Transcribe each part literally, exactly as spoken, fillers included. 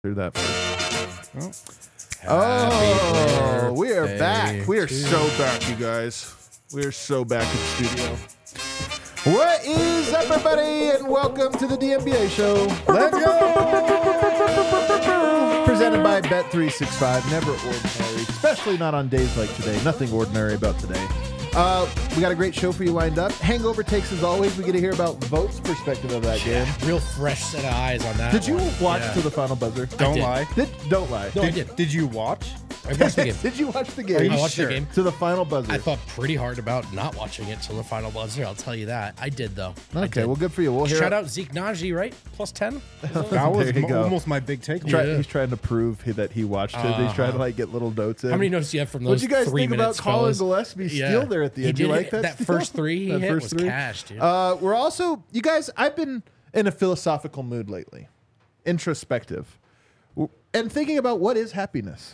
through that first. Oh, oh we are back. We are so back, you guys. We are so back in the studio. What is up, everybody, and welcome to the D M B A show. Let's go! Presented by Bet three sixty-five. Never ordinary, especially not on days like today. Nothing ordinary about today. Uh, we got a great show for you lined up. Hangover takes, as always. We get to hear about Vote's perspective of that yeah, game. Real fresh set of eyes on that. Did you one. watch yeah. to the final buzzer? Don't did. lie. Did, don't lie. No, did, I did. Did you watch? I watched the game. Did you watch the Are game? you I watched sure? the game. To the final buzzer. I thought pretty hard about not watching it till the final buzzer. I'll tell you that. I did though. I Okay, did. well, good for you. We'll hear Shout out Zeke Najee, right? Plus ten. That was There you mo- go. almost my big takeaway. Try, Yeah. He's trying to prove he, that he watched it. He's trying to like get little notes in. How many notes do you have from those? What'd you guys three think about minutes, Colin fellas? Gillespie's Yeah. steal there at the He end? You did like it- that? that steal? first three he That hit first was three? cash, dude. Uh, we're also, you guys. I've been in a philosophical mood lately, introspective, W- and thinking about what is happiness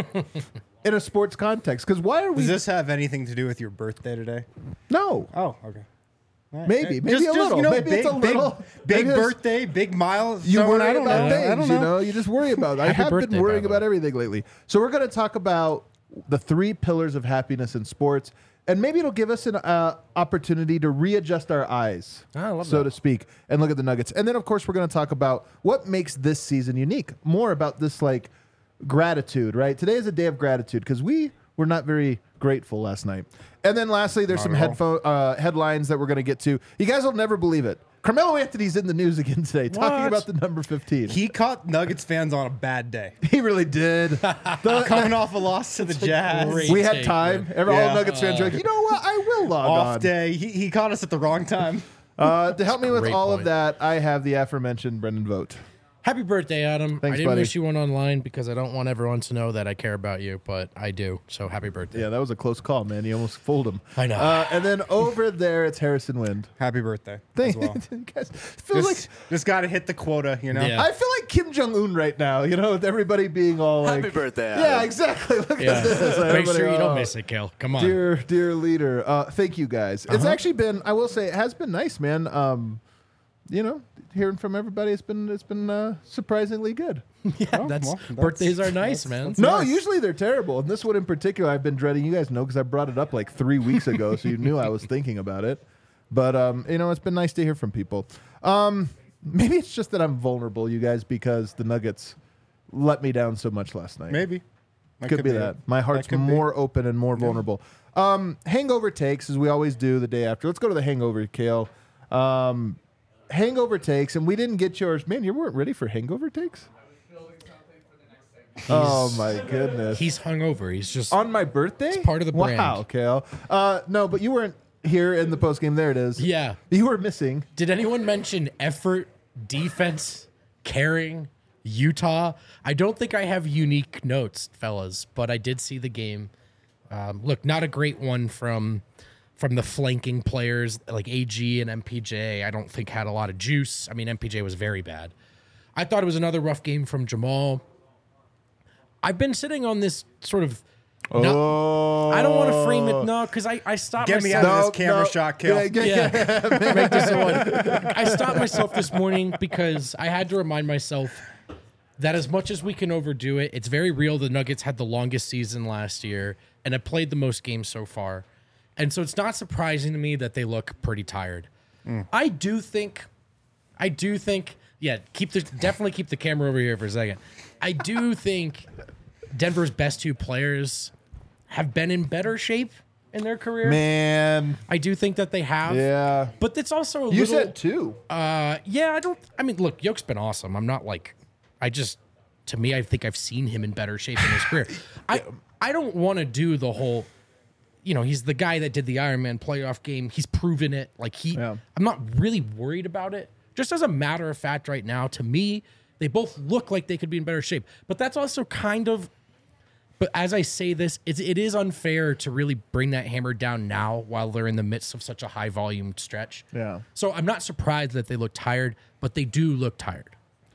in a sports context. Because why are we? Does this have anything to do with your birthday today? no, Oh, okay. All right. Maybe, Uh, maybe just, a just, little. You know, Maybe big, it's a little. Big, big Maybe it's- birthday, big mile. You worry I don't about know. things, I don't you know. know. You just worry about. I Happy have birthday, been by worrying the about way. everything lately. So we're going to talk about the three pillars of happiness in sports, and maybe it'll give us an uh, opportunity to readjust our eyes, Ah, I love so that. to speak, and look at the Nuggets. And then, of course, we're going to talk about what makes this season unique. More about this, like gratitude. Right? Today is a day of gratitude because we were not very grateful last night. And then, lastly, there's Not some at all. headphone uh, headlines that we're going to get to. You guys will never believe it. Carmelo Anthony's in the news again today, talking What? about the number fifteen. He caught Nuggets fans on a bad day. He really did. The- Coming off a loss to the Jazz. great- we had take, time. man. Every, All Yeah. Nuggets fans are like, you know what? I will log Off on. day. He, he caught us at the wrong time. Uh, to help me with Great all of point. that, I have the aforementioned Brendan Vogt. Happy birthday, Adam. Thanks, I didn't buddy. wish you one online because I don't want everyone to know that I care about you, but I do. So happy birthday. Yeah, that was a close call, man. You almost fooled him. I know. Uh, and then over there, it's Harrison Wind. Happy birthday. Thank as well. you guys. Feels Just, like just got to hit the quota, you know? Yeah. I feel like Kim Jong Un right now. You know, with everybody being all like, Happy birthday, Adam. Yeah, exactly. Look Yeah. at this. Make Everybody, sure you oh. don't miss it, Kale. Come on. Dear, dear leader, uh, thank you guys. It's Uh-huh. actually been, I will say, it has been nice, man. Um, you know, hearing from everybody, it's been it's been uh, surprisingly good. yeah, Oh, that's, well, that's- birthdays are nice, that's- man. that's No, nice. usually they're terrible, and this one in particular, I've been dreading. You guys know because I brought it up like three weeks ago, so you knew I was thinking about it. But um, you know, it's been nice to hear from people. Um, maybe it's just that I'm vulnerable, you guys, because the Nuggets let me down so much last night. Maybe. That Could, be that. My heart's could be. more open and more vulnerable. Um, hangover takes, as we always do the day after. Let's go to the hangover, Kale. Um, hangover takes, and we didn't get yours. Man, you weren't ready for hangover takes? Oh, my goodness. He's hungover. He's just On my birthday? It's part of the brand. Wow, Kale. Uh, no, but you weren't here in the postgame. There it is. yeah. You were missing. Did anyone mention effort, defense, caring, Utah? I don't think I have unique notes, fellas, but I did see the game. Um, look, not a great one from from the flanking players like A G and M P J. I don't think had a lot of juice. I mean, M P J was very bad. I thought it was another rough game from Jamal. I've been sitting on this sort of. No, Oh. I don't want to frame it no, because I I stopped Get me myself. out of No, this camera no. shot, Kill. Yeah, yeah, Yeah, make this a one. I stopped myself this morning because I had to remind myself that as much as we can overdo it, it's very real. The Nuggets had the longest season last year and have played the most games so far. And so it's not surprising to me that they look pretty tired. I do think, I do think, yeah, keep the definitely keep the camera over here for a second. I do think Denver's best two players have been in better shape in their career. Man. I do think that they have. Yeah. But it's also a You little. said two. Uh, yeah, I don't. I mean, look, Yoke's been awesome. I'm not like. I just. To me, I think I've seen him in better shape in his career. I I don't want to do the whole. You know, he's the guy that did the Iron Man playoff game. He's proven it. Like he. Yeah. I'm not really worried about it. Just as a matter of fact, right now, to me, they both look like they could be in better shape. But that's also kind of. But as I say this, it's, it is unfair to really bring that hammer down now while they're in the midst of such a high volume stretch. Yeah. So I'm not surprised that they look tired, but they do look tired.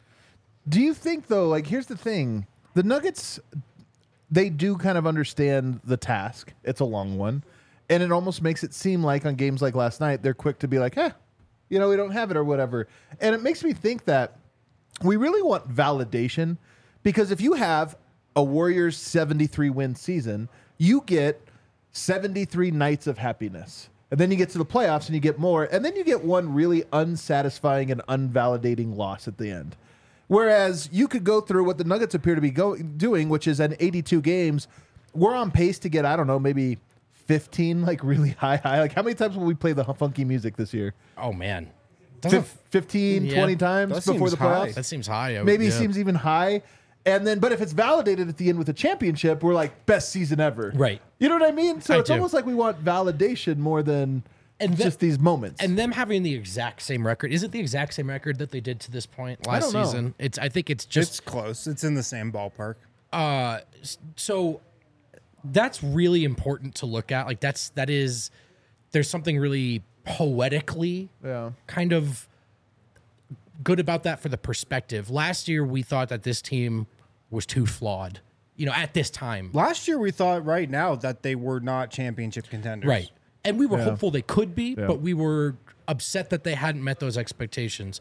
Do you think, though, like, here's the thing. The Nuggets, they do kind of understand the task. It's a long one. And it almost makes it seem like on games like last night, they're quick to be like, eh, you know, we don't have it or whatever. And it makes me think that we really want validation Because if you have a Warriors seventy-three win season, you get seventy-three nights of happiness. And then you get to the playoffs and you get more. And then you get one really unsatisfying and unvalidating loss at the end. Whereas you could go through what the Nuggets appear to be go- doing, which is at eighty-two games, we're on pace to get, I don't know, maybe fifteen, like really high, high. Like how many times will we play the funky music this year? Oh, man. Fif- fifteen, Yeah. twenty times That before seems the high. playoffs? That seems high. I would- Maybe yeah. seems even high. And then, but if it's validated at the end with a championship, we're like, best season ever. Right. You know what I mean? So I it's do. almost like we want validation more than And the- just these moments. And them having the exact same record. Is it the exact same record that they did to this point last don't know. season? It's. I think it's just It's close. It's in the same ballpark. Uh, s- so that's really important to look at. Like that's that is there's something really poetically yeah. kind of good about that for the perspective. Last year we thought that this team was too flawed. You know, at this time. Last year, we thought right now that they were not championship contenders. Right. And we were Yeah. hopeful they could be, Yeah. but we were upset that they hadn't met those expectations.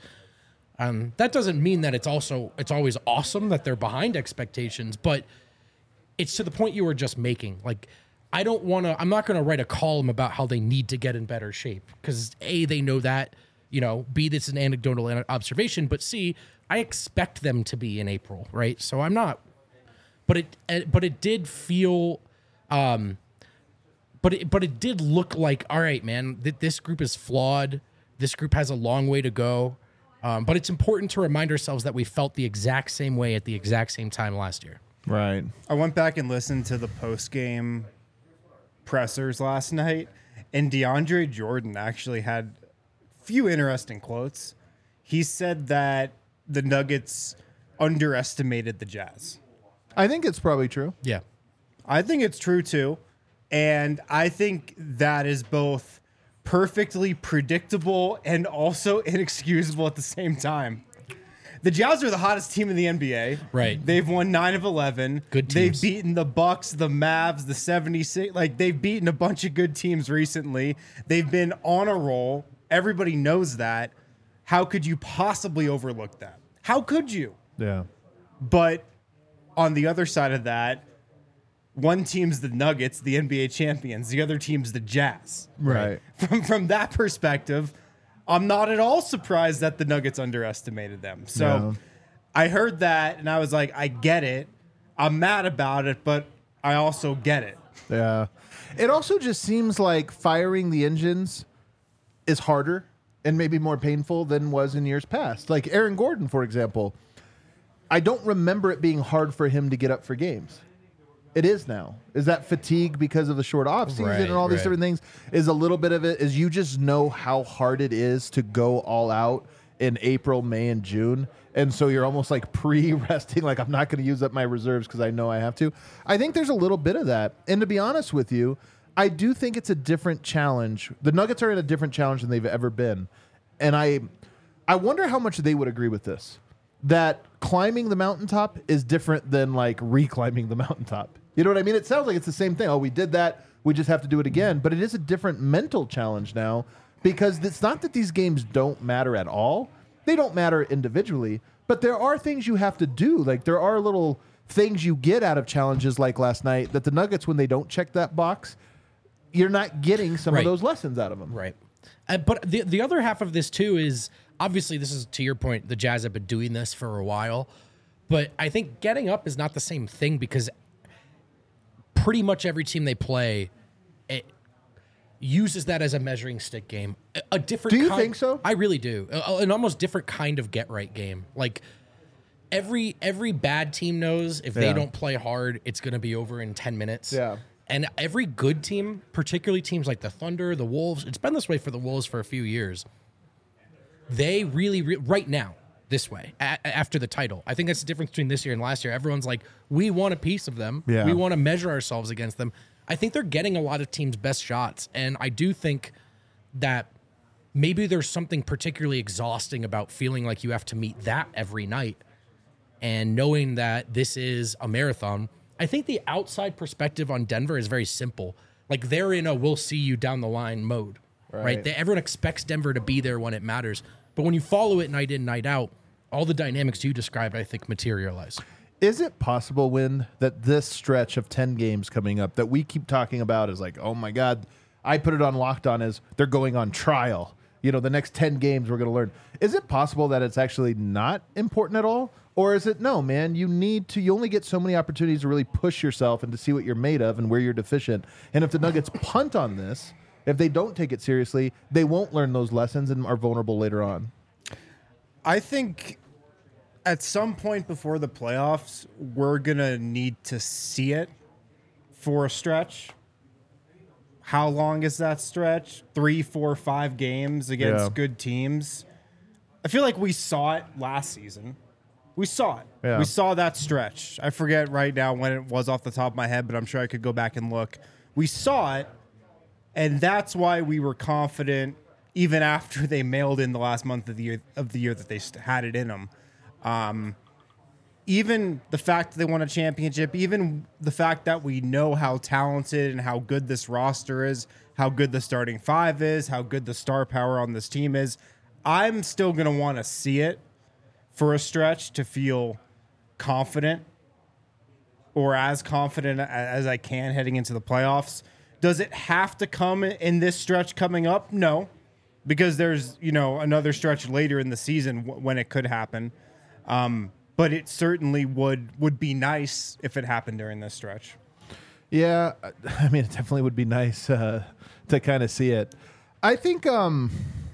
Um, that doesn't mean that it's also it's always awesome that they're behind expectations, but it's to the point you were just making. Like, I don't want to. I'm not going to write a column about how they need to get in better shape because A, they know that. You know, B, this is an anecdotal an- observation, but C, I expect them to be in April, right? So I'm not. But it, uh, but it did feel. Um, But it, but it did look like, all right, man, th- this group is flawed. This group has a long way to go. Um, but it's important to remind ourselves that we felt the exact same way at the exact same time last year. Right. I went back and listened to the post game pressers last night, and DeAndre Jordan actually had a few interesting quotes. He said that the Nuggets underestimated the Jazz. I think it's probably true. Yeah. I think it's true too. And I think that is both perfectly predictable and also inexcusable at the same time. The Jazz are the hottest team in the N B A. Right. They've won nine of eleven. Good They've teams. beaten the Bucks, the Mavs, the seventy-six. Like, they've beaten a bunch of good teams recently. They've been on a roll. Everybody knows that. How could you possibly overlook that? How could you? Yeah. But on the other side of that, one team's the Nuggets, the N B A champions. The other team's the Jazz. Right. From from that perspective, I'm not at all surprised that the Nuggets underestimated them. So Yeah. I heard that and I was like, I get it. I'm mad about it, but I also get it. Yeah. It also just seems like firing the engines is harder and maybe more painful than was in years past. Like Aaron Gordon, for example. I don't remember it being hard for him to get up for games. It is now. Is that fatigue because of the short off season Right, and all these right. different things? Is a little bit of it is you just know how hard it is to go all out in April, May, and June. And so you're almost like pre-resting, like I'm not going to use up my reserves because I know I have to. I think there's a little bit of that. And to be honest with you, I do think it's a different challenge. The Nuggets are in a different challenge than they've ever been. And I I wonder how much they would agree with this. That climbing the mountaintop is different than like reclimbing the mountaintop. You know what I mean? It sounds like it's the same thing. Oh, we did that. We just have to do it again. But it is a different mental challenge now because it's not that these games don't matter at all. They don't matter individually, but there are things you have to do. Like there are little things you get out of challenges like last night that the Nuggets, when they don't check that box, you're not getting some Right. of those lessons out of them. Right. Uh, but the the other half of this too is obviously this is to your point. The Jazz have been doing this for a while, but I think getting up is not the same thing because pretty much every team they play it uses that as a measuring stick game. A, a different. Do you kind- think so? I really do. A- an almost different kind of get right game. Like every every bad team knows if they Yeah. don't play hard, it's going to be over in ten minutes. Yeah. And every good team, particularly teams like the Thunder, the Wolves, it's been this way for the Wolves for a few years. They really, re- right now, this way, a- after the title. I think that's the difference between this year and last year. Everyone's like, we want a piece of them. Yeah. We want to measure ourselves against them. I think they're getting a lot of teams' best shots. And I do think that maybe there's something particularly exhausting about feeling like you have to meet that every night and knowing that this is a marathon. I think the outside perspective on Denver is very simple. Like they're in a we'll see you down the line mode, right? Right. They, everyone expects Denver to be there when it matters. But when you follow it night in, night out, all the dynamics you described, I think, materialize. Is it possible, Win, that this stretch of ten games coming up that we keep talking about is like, oh my God, I put it on Locked On as they're going on trial. You know, the next ten games we're going to learn. Is it possible that it's actually not important at all? Or is it, no, man, you need to, you only get so many opportunities to really push yourself and to see what you're made of and where you're deficient. And if the Nuggets punt on this, if they don't take it seriously, they won't learn those lessons and are vulnerable later on. I think at some point before the playoffs, we're going to need to see it for a stretch. How long is that stretch? Three, four, five games against Yeah. good teams. I feel like we saw it last season. We saw it. Yeah. We saw that stretch. I forget right now when it was off the top of my head, but I'm sure I could go back and look. We saw it, and that's why we were confident even after they mailed in the last month of the year of the year that they st- had it in them. Um, even the fact that they won a championship, even the fact that we know how talented and how good this roster is, how good the starting five is, how good the star power on this team is, I'm still going to want to see it for a stretch to feel confident or as confident a- as I can heading into the playoffs. Does it have to come in this stretch coming up? No, because there's, you know, another stretch later in the season w- when it could happen. Um, but it certainly would would be nice if it happened during this stretch. Yeah, I mean, it definitely would be nice uh, to kind of see it. I think um,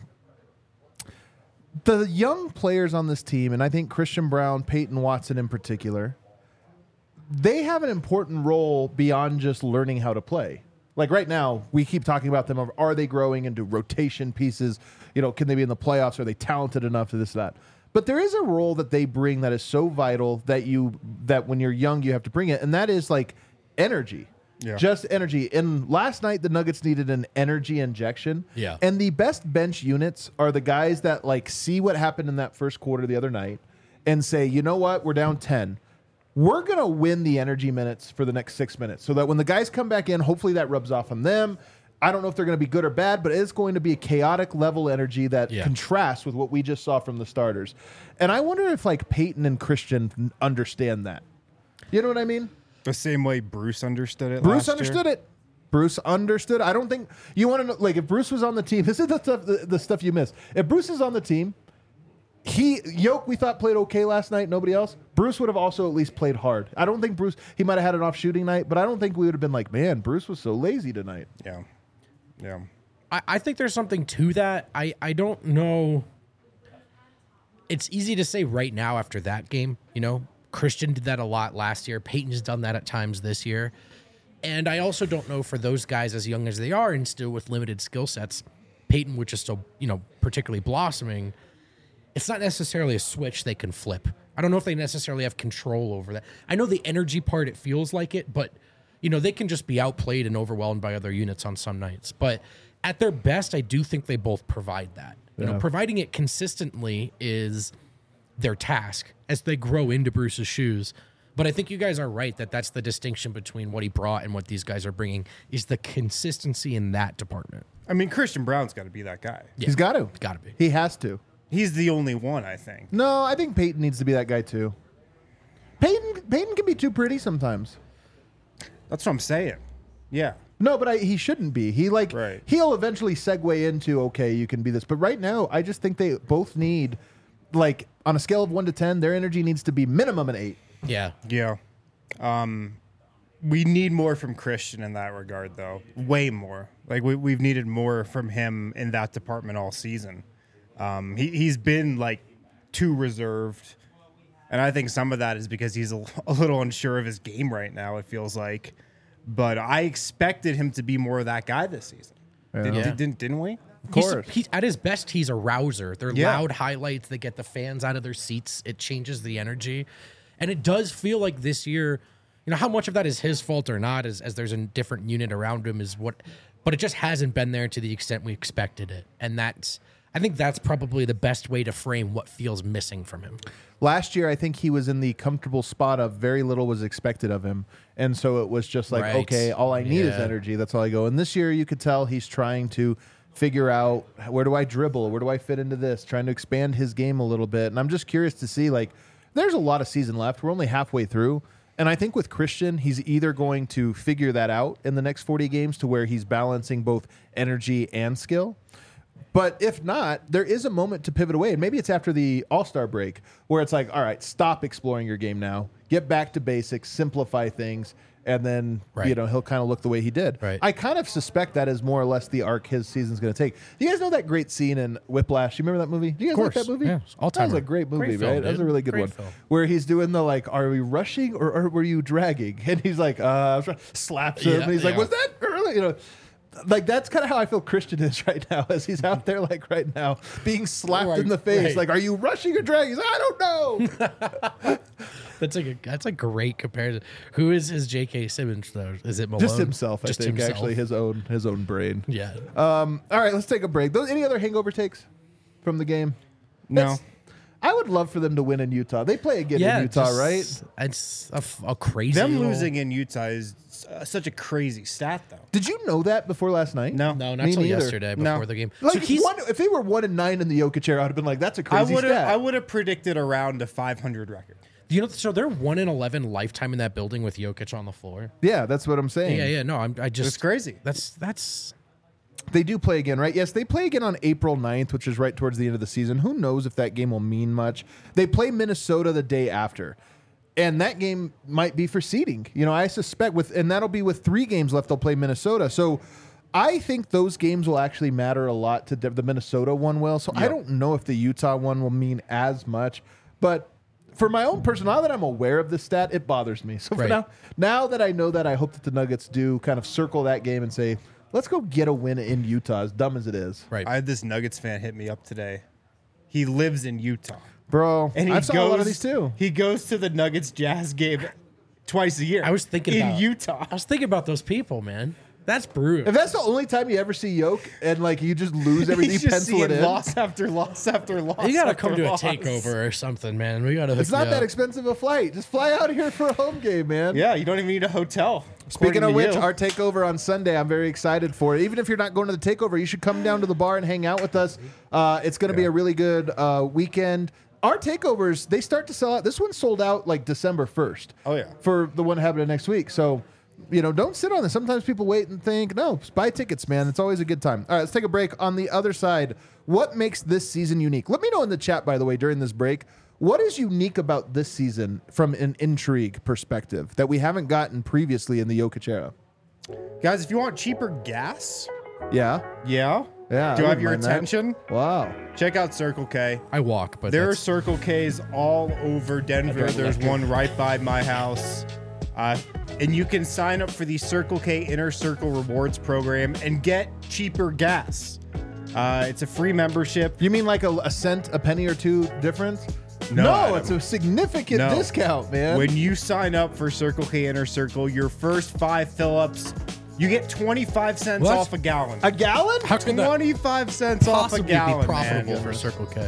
the young players on this team, and I think Christian Brown, Peyton Watson in particular, they have an important role beyond just learning how to play. Like right now, we keep talking about them. Of, are they growing into rotation pieces? You know, can they be in the playoffs? Are they talented enough to this, that? But there is a role that they bring that is so vital that you that when you're young you have to bring it, and that is like energy. Yeah. Just energy. And last night the Nuggets needed an energy injection. Yeah. And the best bench units are the guys that like see what happened in that first quarter the other night and say, you know what, we're down ten. We're gonna win the energy minutes for the next six minutes, so that when the guys come back in, hopefully that rubs off on them. I don't know if they're going to be good or bad, but it's going to be a chaotic level energy that Yeah. contrasts with what we just saw from the starters. And I wonder if like Peyton and Christian understand that. You know what I mean? The same way Bruce understood it. Bruce last understood year. it. Bruce understood. I don't think you want to know. Like if Bruce was on the team, this is the stuff the, the stuff you miss. If Bruce is on the team, he Yoke we thought played okay last night. Nobody else. Bruce would have also at least played hard. I don't think Bruce. He might have had an off shooting night, but I don't think we would have been like, man, Bruce was so lazy tonight. Yeah. Yeah. I, I think there's something to that. I, I don't know. It's easy to say right now after that game, you know, Christian did that a lot last year. Peyton's done that at times this year. And I also don't know for those guys as young as they are and still with limited skill sets, Peyton, which is still, you know, particularly blossoming, it's not necessarily a switch they can flip. I don't know if they necessarily have control over that. I know the energy part, it feels like it, but you know, they can just be outplayed and overwhelmed by other units on some nights. But at their best, I do think they both provide that. You Yeah. know, providing it consistently is their task as they grow into Bruce's shoes. But I think you guys are right that that's the distinction between what he brought and what these guys are bringing is the consistency in that department. I mean, Christian Brown's got to be that guy. Yeah. He's got to. Got to be. He has to. He's the only one, I think. No, I think Peyton needs to be that guy too. Peyton Peyton can be too pretty sometimes. That's what I'm saying. Yeah. No, but I, he shouldn't be. He like Right. he'll eventually segue into okay, you can be this. But right now, I just think they both need like on a scale of one to ten, their energy needs to be minimum an eight. Yeah. Yeah. Um, we need more from Christian in that regard, though. Way more. Like we, we've needed more from him in that department all season. Um, he, he's been like too reserved. And I think some of that is because he's a, a little unsure of his game right now, it feels like. But I expected him to be more of that guy this season. Did, Yeah. did, didn't, didn't we? Of He's, course. he's at his best. He's a rouser. They're Yeah. loud highlights. They get the fans out of their seats. It changes the energy, and it does feel like this year. You know how much of that is his fault or not, as as there's a different unit around him, is what. But it just hasn't been there to the extent we expected it, and that's. I think that's probably the best way to frame what feels missing from him. Last year, I think he was in the comfortable spot of very little was expected of him. And so it was just like, Right. okay, all I need is Yeah. energy. That's all I go. And this year, you could tell he's trying to figure out where do I dribble? Where do I fit into this? Trying to expand his game a little bit. And I'm just curious to see, like, there's a lot of season left. We're only halfway through. And I think with Christian, he's either going to figure that out in the next forty games to where he's balancing both energy and skill. But if not, there is a moment to pivot away. And maybe it's after the All-Star break where it's like, all right, stop exploring your game now. Get back to basics, simplify things. And then, Right. you know, he'll kind of look the way he did. Right. I kind of suspect that is more or less the arc his season's going to take. You guys know that great scene in Whiplash? You remember that movie? Do you guys Of like course. that movie? Yeah, it's all-timer. That was a great movie, Great film, right? That was a dude. really good Great one. film. Where he's doing the, like, are we rushing or, or were you dragging? And he's like, uh, I was trying- slaps him. Yeah, and he's like, yeah. was that early? You know, like, that's kind of how I feel Christian is right now, as he's out there, like, right now, being slapped Right, in the face. right. Like, are you rushing or dragging? He's like, I don't know. That's like a that's a great comparison. Who is his J K. Simmons though? Is it Malone? Just himself, I Just think, himself. actually, his own his own brain. Yeah. Um, all right, let's take a break. Those, any other hangover takes from the game? No. That's- I would love for them to win in Utah. They play again yeah. in Utah, just- right? It's a, f- a crazy. Them little- losing in Utah is uh, such a crazy stat, though. Did you know that before last night? No. No, not Me until neither. yesterday No. before the game. Like so he's one, if they were one and nine in the Jokic era, I'd have been like, "That's a I crazy would have. stat." I would have predicted around a five hundred record. you know so they're one in eleven lifetime in that building with Jokic on the floor. yeah, that's what I'm saying. Yeah, yeah. No, I'm I just It's crazy. That's that's They do play again, right? Yes, they play again on April ninth, which is right towards the end of the season. Who knows if that game will mean much? They play Minnesota the day after. And that game might be for seeding. You know, I suspect with and that'll be with three games left, they'll play Minnesota. So I think those games will actually matter a lot to the Minnesota one will. So I Yep. don't know if the Utah one will mean as much. But for my own personal, now that I'm aware of this stat, it bothers me. So for Right. now, now that I know that, I hope that the Nuggets do kind of circle that game and say, let's go get a win in Utah, as dumb as it is. right. I had this Nuggets fan hit me up today. He lives in Utah, Bro, and he I've saw goes. a lot of these too. He goes to the Nuggets Jazz game twice a year. I was thinking in about, Utah. I was thinking about those people, man. That's brutal. If that's the only time you ever see Yoke and like you just lose everything, He's you just pencil it seeing in. loss after loss after loss. You gotta after come to a loss. takeover or something, man. We gotta. It's not that expensive a flight. Just fly out here for a home game, man. Yeah, you don't even need a hotel. Speaking according of to which, you. our takeover on Sunday, I'm very excited for it. Even if you're not going to the takeover, you should come down to the bar and hang out with us. Uh, it's going to be a really good uh, weekend. Our takeovers, they start to sell out. This one sold out like December first. Oh, yeah. For the one happening next week. So, you know, don't sit on this. Sometimes people wait and think, no, just buy tickets, man. It's always a good time. All right, let's take a break. On the other side, what makes this season unique? Let me know in the chat, by the way, during this break. What is unique about this season from an intrigue perspective that we haven't gotten previously in the Jokic era? Guys, if you want cheaper gas, Yeah. yeah, Yeah. do I I wouldn't have your mind that. attention? Wow. Check out Circle K. I walk, but There are that's- Circle K's all over Denver. drive There's electric. one right by my house. Uh, and you can sign up for the Circle K Inner Circle Rewards program and get cheaper gas. Uh, it's a free membership. You mean like a, a cent, a penny or two difference? No, no Adam. it's a significant No. discount, man. When you sign up for Circle K Inner Circle, your first five fill-ups, you get twenty-five cents What? off a gallon. a gallon? How could that twenty-five cents off a possibly gallon, be profitable man. for Circle K?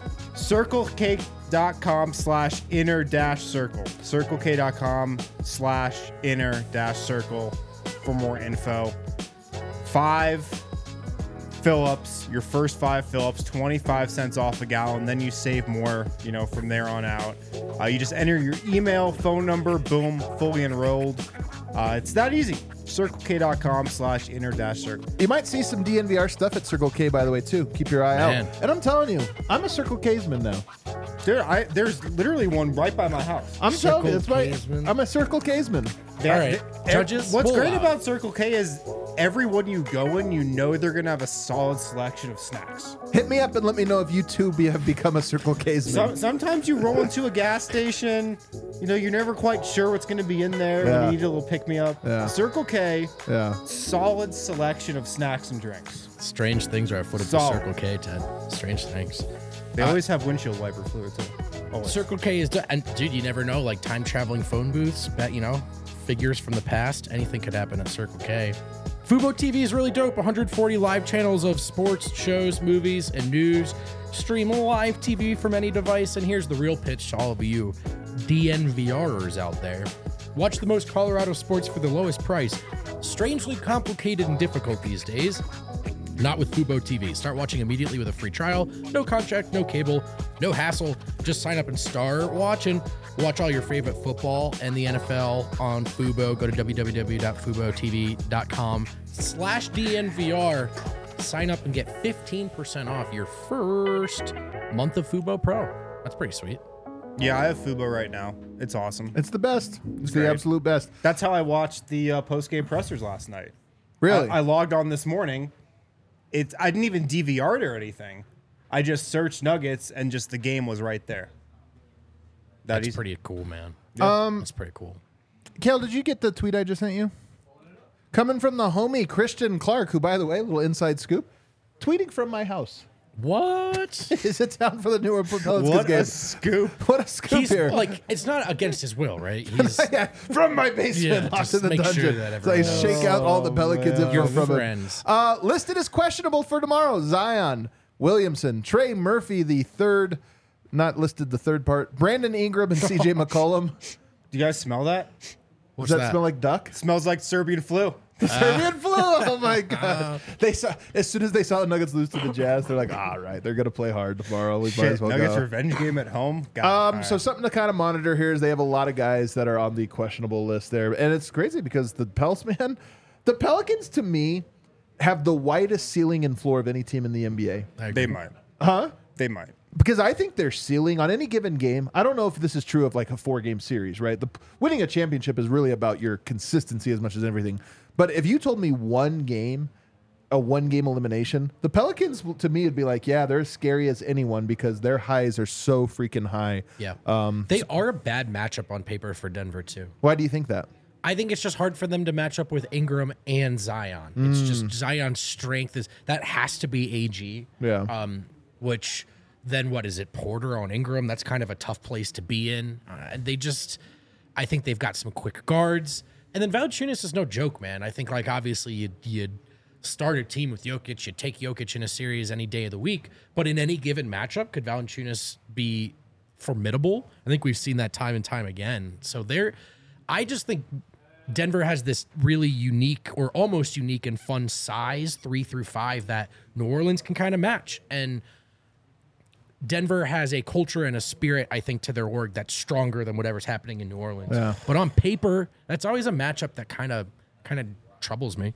CircleK.com slash inner dash circle. CircleK.com slash inner dash circle for more info. Five fill-ups, your first five fill-ups, twenty-five cents off a gallon. Then you save more, you know, from there on out. Uh, you just enter your email, phone number, boom, fully enrolled. Uh, it's that easy. CircleK.com slash inner dash circle. You might see some D N V R stuff at Circle K, by the way, too. Keep your eye Man. out. And I'm telling you, I'm a Circle K'sman now. Dude, I, there's literally one right by my house. I'm telling you, it's Circle my, K'sman. I'm a Circle K'sman. They- All right, they- judges, What's pull great out. about Circle K is everyone you go in, you know they're gonna have a solid selection of snacks. Hit me up and let me know if you too be, have become a Circle K'sman. Some, sometimes you roll into a gas station, you know, you're never quite sure what's gonna be in there. Yeah. You need a little pick me up. Yeah. Circle K, yeah. solid selection of snacks and drinks. Strange things are afoot at the Solid. Circle K, Ted. Strange things. They Uh, always have windshield wiper fluid too. Always. Circle K is, do- and dude, you never know. Like time traveling phone booths, bet you know, figures from the past. Anything could happen at Circle K. Fubo T V is really dope. one hundred forty live channels of sports, shows, movies, and news. Stream live T V from any device. And here's the real pitch to all of you DNVRers out there. Watch the most Colorado sports for the lowest price. Strangely complicated and difficult these days. Not with Fubo T V. Start watching immediately with a free trial. No contract, no cable, no hassle. Just sign up and start watching. Watch all your favorite football and the N F L on Fubo. Go to www.fubotv.com slash DNVR. Sign up and get fifteen percent off your first month of Fubo Pro. That's pretty sweet. Yeah, I have Fubo right now. It's awesome. It's the best. It's the great. absolute best. That's how I watched the uh, post-game pressers last night. Really? I, I logged on this morning. It's I didn't even D V R it or anything. I just searched Nuggets and just the game was right there. That That's easy. pretty cool, man. Um, That's pretty cool. Kale, did you get the tweet I just sent you? Coming from the homie Christian Clark, who, by the way, little inside scoop, tweeting from my house. What? Is it down for the New Orleans Pelicans What game? a scoop. What a scoop He's here. like, it's not against his will, right? He's Yeah, from my basement Yeah, off just to the make sure dungeon. that so I everyone shake out all the Pelicans man. info Your from friends. it. Uh, listed as questionable for tomorrow: Zion Williamson, Trey Murphy, the third, not listed the third part, Brandon Ingram, and C J McCollum. Do you guys smell that? Does What's that, that? smell like duck? Smells like Serbian flu. Serbian flu. Oh my god! They saw as soon as they saw the Nuggets lose to the Jazz, they're like, "All right, they're gonna play hard tomorrow. We might Shit, as well Nuggets go." revenge game at home. God, Um, all so right. something to kind of monitor here is they have a lot of guys that are on the questionable list there, and it's crazy because the Pels, man, the Pelicans to me have the widest ceiling and floor of any team in the N B A. I agree. they might. Huh? They might. Because I think their ceiling on any given game, I don't know if this is true of like a four game series, right? The winning a championship is really about your consistency as much as everything. But if you told me one game, a one game elimination, the Pelicans to me would be like, yeah, they're as scary as anyone because their highs are so freaking high. Yeah. Um, they are a bad matchup on paper for Denver, too. why do you think that? I think it's just hard for them to match up with Ingram and Zion. It's Mm. just Zion's strength is that has to be A G. Yeah. Um, which then what is it? Porter on Ingram. That's kind of a tough place to be in. Uh, and they just, I think they've got some quick guards. And then Valanciunas is no joke, man. I think like obviously you'd, you'd start a team with Jokic. You'd take Jokic in a series any day of the week. But in any given matchup, could Valanciunas be formidable? I think we've seen that time and time again. So they're, I just think Denver has this really unique or almost unique and fun size three through five that New Orleans can kind of match. And Denver has a culture and a spirit, I think, to their org that's stronger than whatever's happening in New Orleans. Yeah. But on paper, that's always a matchup that kind of kind of troubles me.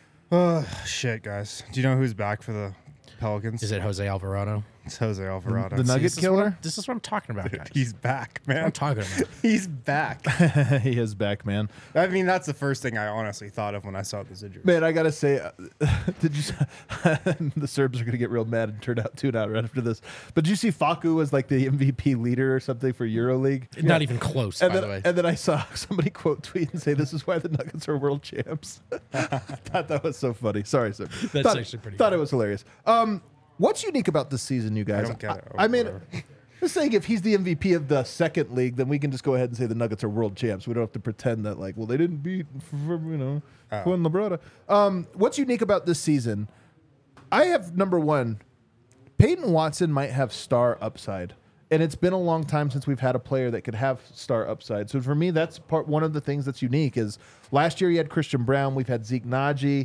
Shit, guys. Do you know who's back for the Pelicans? Is it Jose Alvarado? It's Jose Alvarado. The See, Nugget this is what killer? I'm- This is what I'm talking about, guys. He's back, I'm man. talking about. He's back. He is back, man. I mean, that's the first thing I honestly thought of when I saw this injury. Man, I gotta say, uh, did you? The Serbs are gonna get real mad and turn out tune out right after this. But did you see Facu was like the M V P leader or something for EuroLeague? Not even close, And by then, the way. and then I saw somebody quote tweet and say, "This is why the Nuggets are world champs." Thought that was so funny. Sorry, sir. That's thought, actually pretty Thought good. it was hilarious. Um, what's unique about this season, you guys? I don't get it. I, I mean, Whatever. just saying, if he's the M V P of the second league, then we can just go ahead and say the Nuggets are world champs. We don't have to pretend that like, well, they didn't beat, you know, Oh. Juan Labrada. Um, what's unique about this season? I have number one. Peyton Watson might have star upside. And it's been a long time since we've had a player that could have star upside. So for me, that's part one of the things that's unique is last year you had Christian Brown, we've had Zeke Naji.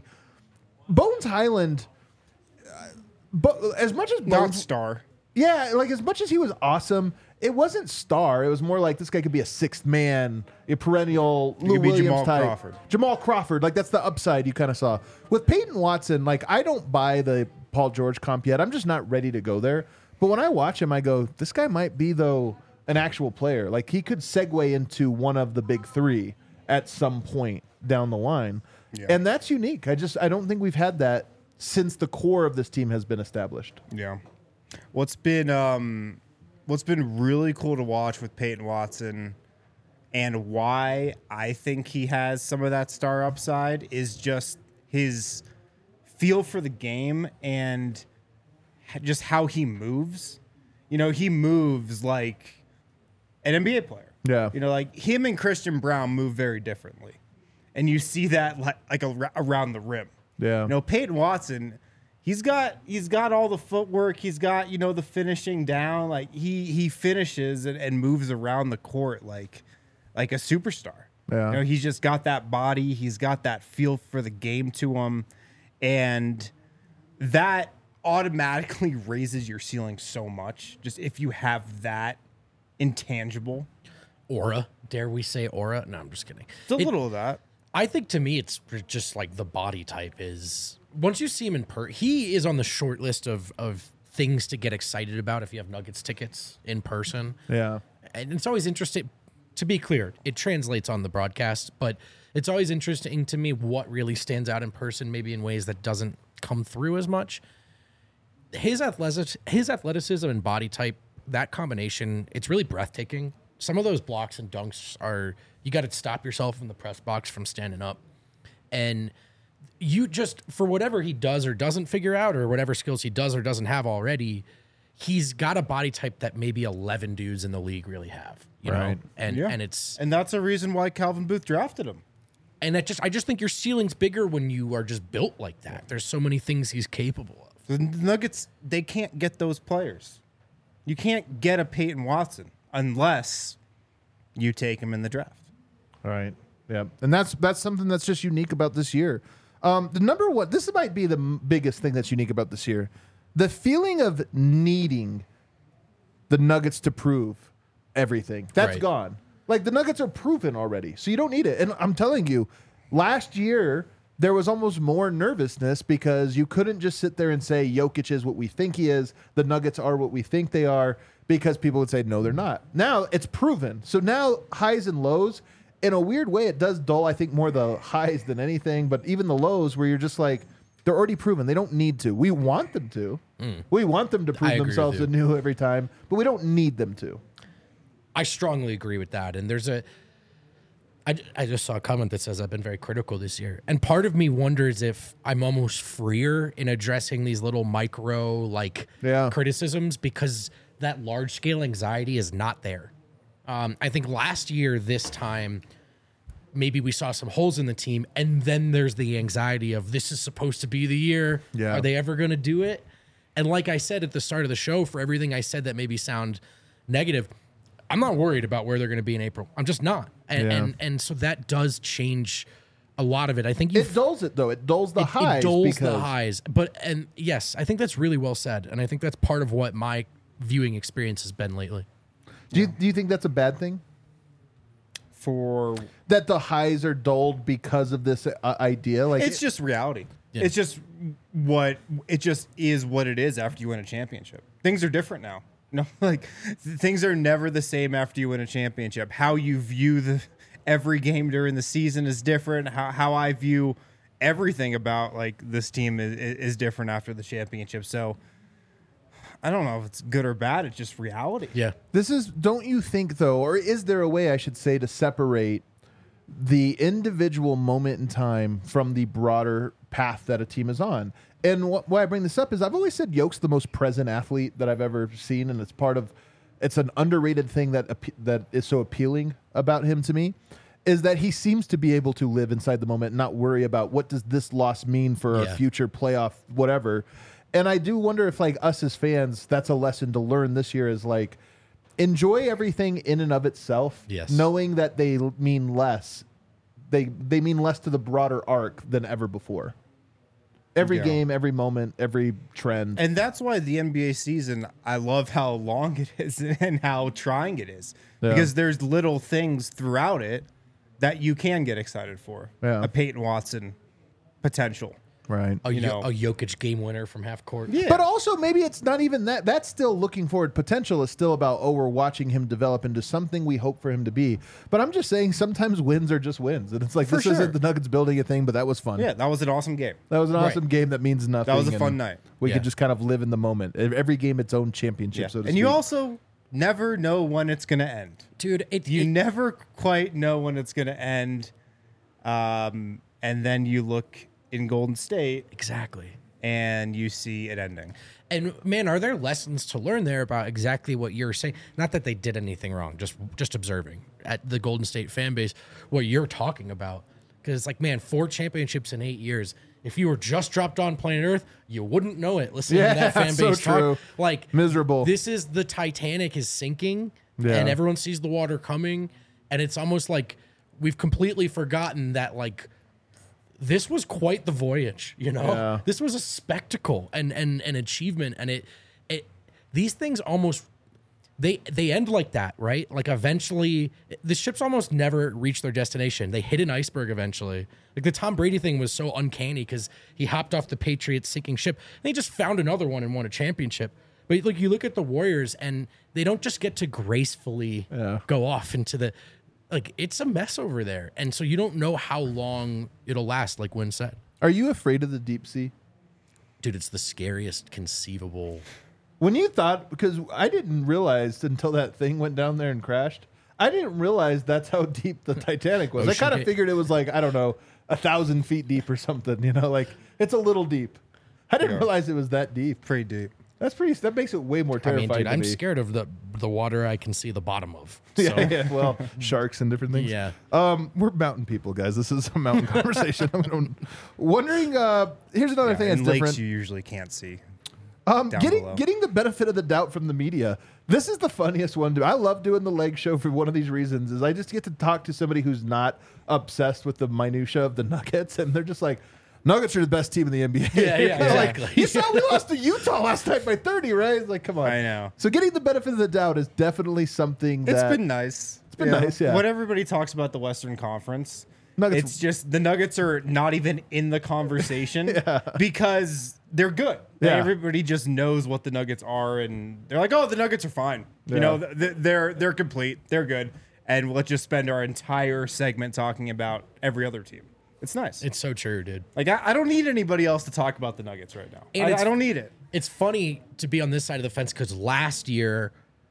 Bones Highland, uh, but as much as Not Bones, star. yeah, like as much as he was awesome, it wasn't star. It was more like this guy could be a sixth man, a perennial Lou could be Williams Jamal type. Crawford. Jamal Crawford, like that's the upside you kind of saw. With Peyton Watson, like I don't buy the Paul George comp yet. I'm just not ready to go there. But when I watch him, I go, this guy might be though an actual player. Like he could segue into one of the big three at some point down the line. Yeah. And that's unique. I just I don't think we've had that since the core of this team has been established. Yeah. What's been um, what's been really cool to watch with Peyton Watson, and why I think he has some of that star upside is just his feel for the game and h- just how he moves. You know, he moves like an N B A player. Yeah. You know, like him and Christian Brown move very differently, and you see that like, like ar- around the rim. Yeah. You know, Peyton Watson, he's got he's got all the footwork. He's got, you know, the finishing down. Like he he finishes and, and moves around the court like like a superstar. Yeah. You know, he's just got that body. He's got that feel for the game to him. And that automatically raises your ceiling so much. Just if you have that intangible. Aura. Dare we say aura? No, I'm just kidding. It's a It- little of that. I think to me, it's just like the body type is. Once you see him in per, he is on the short list of of things to get excited about if you have Nuggets tickets in person. Yeah. And it's always interesting. To be clear, it translates on the broadcast, but it's always interesting to me what really stands out in person, maybe in ways that doesn't come through as much. His athletic, his athleticism and body type, that combination, it's really breathtaking. Some of those blocks and dunks are, you got to stop yourself in the press box from standing up. And you just, for whatever he does or doesn't figure out, or whatever skills he does or doesn't have already, he's got a body type that maybe eleven dudes in the league really have, you Right. know? And, Yeah. and it's, And that's a reason why Calvin Booth drafted him. and that just, I just think your ceiling's bigger when you are just built like that. There's so many things he's capable of. The Nuggets, they can't get those players. You can't get a Peyton Watson unless you take him in the draft. All right. Yeah. And that's that's something that's just unique about this year. Um, the number one, this might be the m- biggest thing that's unique about this year. The feeling of needing the Nuggets to prove everything. That's Right. gone. Like the Nuggets are proven already. So you don't need it. And I'm telling you, last year there was almost more nervousness because you couldn't just sit there and say Jokic is what we think he is. The Nuggets are what we think they are, because people would say, no, they're not. Now it's proven. So now highs and lows, in a weird way, it does dull, I think, more the highs than anything. But even the lows where you're just like, they're already proven. They don't need to. We want them to. We want them to prove agree with themselves you. anew every time, but we don't need them to. I strongly agree with that. And there's a, I, I just saw a comment that says I've been very critical this year. And part of me wonders if I'm almost freer in addressing these little micro like Yeah. criticisms because that large scale anxiety is not there. Um, I think last year, this time, maybe we saw some holes in the team. And then there's the anxiety of this is supposed to be the year. Yeah. Are they ever going to do it? And like I said at the start of the show, for everything I said that maybe sound negative, I'm not worried about where they're going to be in April. I'm just not. And, Yeah. and and so that does change a lot of it. I think you It dulls it, though. It dulls the it, highs. it dulls because the highs. But and yes, I think that's really well said. And I think that's part of what my viewing experience has been lately. Do you, do you think that's a bad thing? For That the highs are dulled because of this uh, idea? Like it's just reality. Yeah. It's just what it just is what it is after you win a championship. Things are different now. No, like th- things are never the same after you win a championship. How you view the every game during the season is different. How how I view everything about like this team is, is different after the championship. So I don't know if it's good or bad. It's just reality. Yeah. This is, don't you think, though, or is there a way, I should say, to separate the individual moment in time from the broader path that a team is on? And wh- why I bring this up is I've always said Yoke's the most present athlete that I've ever seen, and it's part of, it's an underrated thing that appe- that is so appealing about him to me, is that he seems to be able to live inside the moment and not worry about what does this loss mean for Yeah. a future playoff, whatever. And I do wonder if, like, us as fans, that's a lesson to learn this year is, like, enjoy everything in and of itself, Yes. knowing that they l- mean less. They they mean less to the broader arc than ever before. Every Yeah. game, every moment, every trend. And that's why the N B A season, I love how long it is and how trying it is. Yeah. Because there's little things throughout it that you can get excited for. Yeah. A Peyton Watson potential. right. A, You Yo- know. a Jokic game winner from half court. Yeah. But also, maybe it's not even that. That's still looking forward. Potential is still about, oh, we're watching him develop into something we hope for him to be. But I'm just saying sometimes wins are just wins. And it's like, For this sure. isn't the Nuggets building a thing, but that was fun. Yeah, that was an awesome game. That was an Right. awesome game that means nothing. That was a and fun night. We Yeah. could just kind of live in the moment. Ev- Every game its own championship, Yeah. so to And you speak. also never know when it's going to end. Dude, it, You it- never quite know when it's going to end. Um, and then you look in Golden State exactly. and you see it ending. And man, are there lessons to learn there about exactly what you're saying? Not that they did anything wrong, just just observing at the Golden State fan base what you're talking about. Because it's like, man, four championships in eight years. If you were just dropped on planet Earth, you wouldn't know it. Listening Yeah, to that fan so base talk, true. like Miserable. This is the Titanic is sinking, Yeah. and everyone sees the water coming, and it's almost like we've completely forgotten that like this was quite the voyage, you know. Yeah. This was a spectacle and and an achievement, and it it these things almost they they end like that, right? Like eventually, the ships almost never reach their destination. They hit an iceberg eventually. Like the Tom Brady thing was so uncanny because he hopped off the Patriots sinking ship and he just found another one and won a championship. But like you look at the Warriors and they don't just get to gracefully Yeah. go off into the like it's a mess over there, and so you don't know how long it'll last. Like Wynn said, Are you afraid of the deep sea? dude, it's the scariest conceivable. When you thought, because I didn't realize until that thing went down there and crashed, I didn't realize that's how deep the Titanic was. I Ocean kind of hit. figured it was like, I don't know, a thousand feet deep or something, you know, like it's a little deep. I didn't Yeah. realize it was that deep. Pretty deep. That's pretty, that makes it way more I terrifying mean, dude, to I'm me. scared of the the water I can see the bottom of. So, Yeah, yeah, well, sharks and different things. Yeah. Um, we're mountain people, guys. This is a mountain conversation. I'm wondering, uh, here's another Yeah, thing that's and lakes different. you usually can't see. Um, down getting below. getting the benefit of the doubt from the media. This is the funniest one. To, I love doing the leg show for one of these reasons. Is I just get to talk to somebody who's not obsessed with the minutia of the Nuggets, and they're just like, Nuggets are the best team in the N B A. Yeah, yeah, They're like, exactly. you saw we lost to Utah last night by thirty, right? It's like, come on. I know. So getting the benefit of the doubt is definitely something that It's been nice. It's been nice, yeah. When everybody talks about the Western Conference, Nuggets- it's just the Nuggets are not even in the conversation because they're good. Yeah. Everybody just knows what the Nuggets are, and they're like, "Oh, the Nuggets are fine. Yeah. You know, th- they're they're complete. They're good." And let's just spend our entire segment talking about every other team. It's nice. it's so true, dude. like I, I don't need anybody else to talk about the Nuggets right now. And I, it's- I don't need it. It's funny to be on this side of the fence because last year,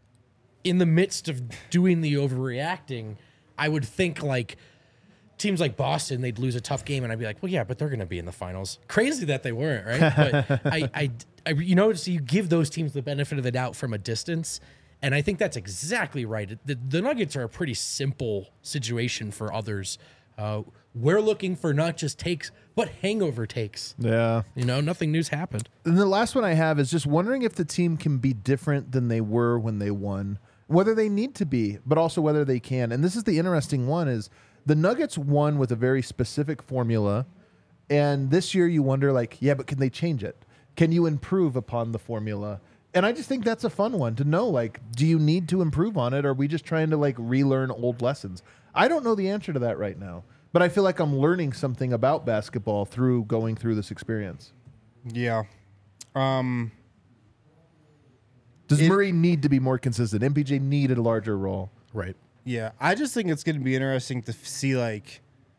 in the midst of doing the overreacting, I would think like teams like Boston, they'd lose a tough game, and I'd be like, well, yeah, but they're going to be in the finals. Crazy that they weren't, right? But I, I, I, you know, so you give those teams the benefit of the doubt from a distance, and I think that's exactly right. The, the Nuggets are a pretty simple situation for others. Uh, we're looking for not just takes, but hangover takes. Yeah. You know, nothing new's happened. And the last one I have is just wondering if the team can be different than they were when they won, whether they need to be, but also whether they can. And this is the interesting one is the Nuggets won with a very specific formula. And this year you wonder like, yeah, but can they change it? Can you improve upon the formula? And I just think that's a fun one to know, like, do you need to improve on it? Or are we just trying to like relearn old lessons? I don't know the answer to that right now, but I feel like I'm learning something about basketball through going through this experience. Yeah. Um. Does It- Murray need to be more consistent? M P J needed a larger role. Right. Yeah, I just think it's going to be interesting to f- see, like,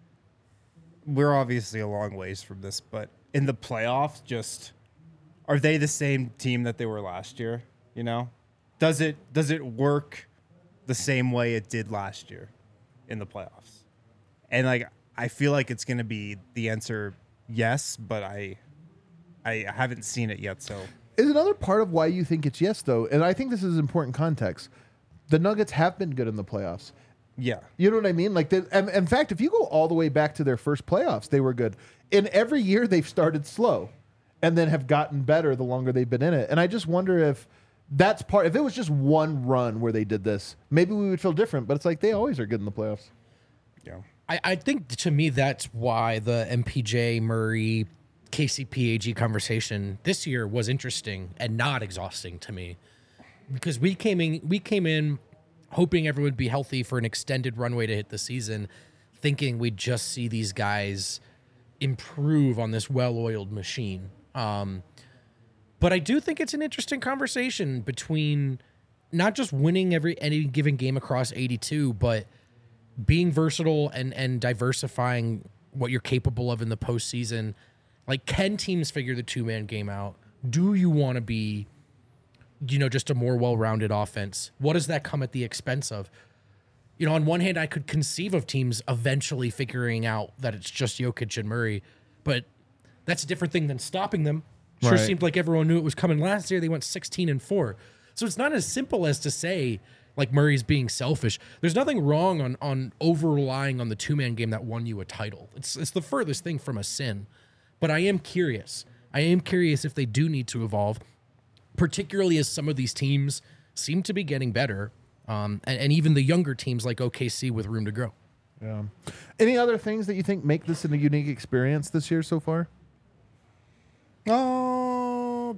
we're obviously a long ways from this, but in the playoffs, just are they the same team that they were last year? You know, does it does it work the same way it did last year in the playoffs? And like, I feel like it's going to be the answer yes, but I I haven't seen it yet, so. Is another part of why you think it's yes, though, and I think this is important context. The Nuggets have been good in the playoffs. Yeah. You know what I mean? Like, they, and, in fact, if you go all the way back to their first playoffs, they were good. In every year, they've started slow, and then have gotten better the longer they've been in it. And I just wonder if that's part. If it was just one run where they did this, maybe we would feel different. But it's like they always are good in the playoffs. Yeah. I, I think to me that's why the M P J Murray K C P A G conversation this year was interesting and not exhausting to me, because we came in we came in hoping everyone would be healthy for an extended runway to hit the season, thinking we'd just see these guys improve on this well-oiled machine. Um, but I do think it's an interesting conversation between not just winning every any given game across eighty-two, but being versatile and and diversifying what you're capable of in the postseason. Like, can teams figure the two-man game out? Do you want to be, you know, just a more well-rounded offense? What does that come at the expense of? You know, on one hand, I could conceive of teams eventually figuring out that it's just Jokic and Murray, but that's a different thing than stopping them. Sure Right. seemed like everyone knew it was coming last year. They went sixteen and four. So it's not as simple as to say, like, Murray's being selfish. There's nothing wrong on on over-relying on the two-man game that won you a title. It's it's the furthest thing from a sin. But I am curious. I am curious if they do need to evolve, particularly as some of these teams seem to be getting better, um, and, and even the younger teams like O K C with room to grow. Yeah. Any other things that you think make this a unique experience this year so far? Oh.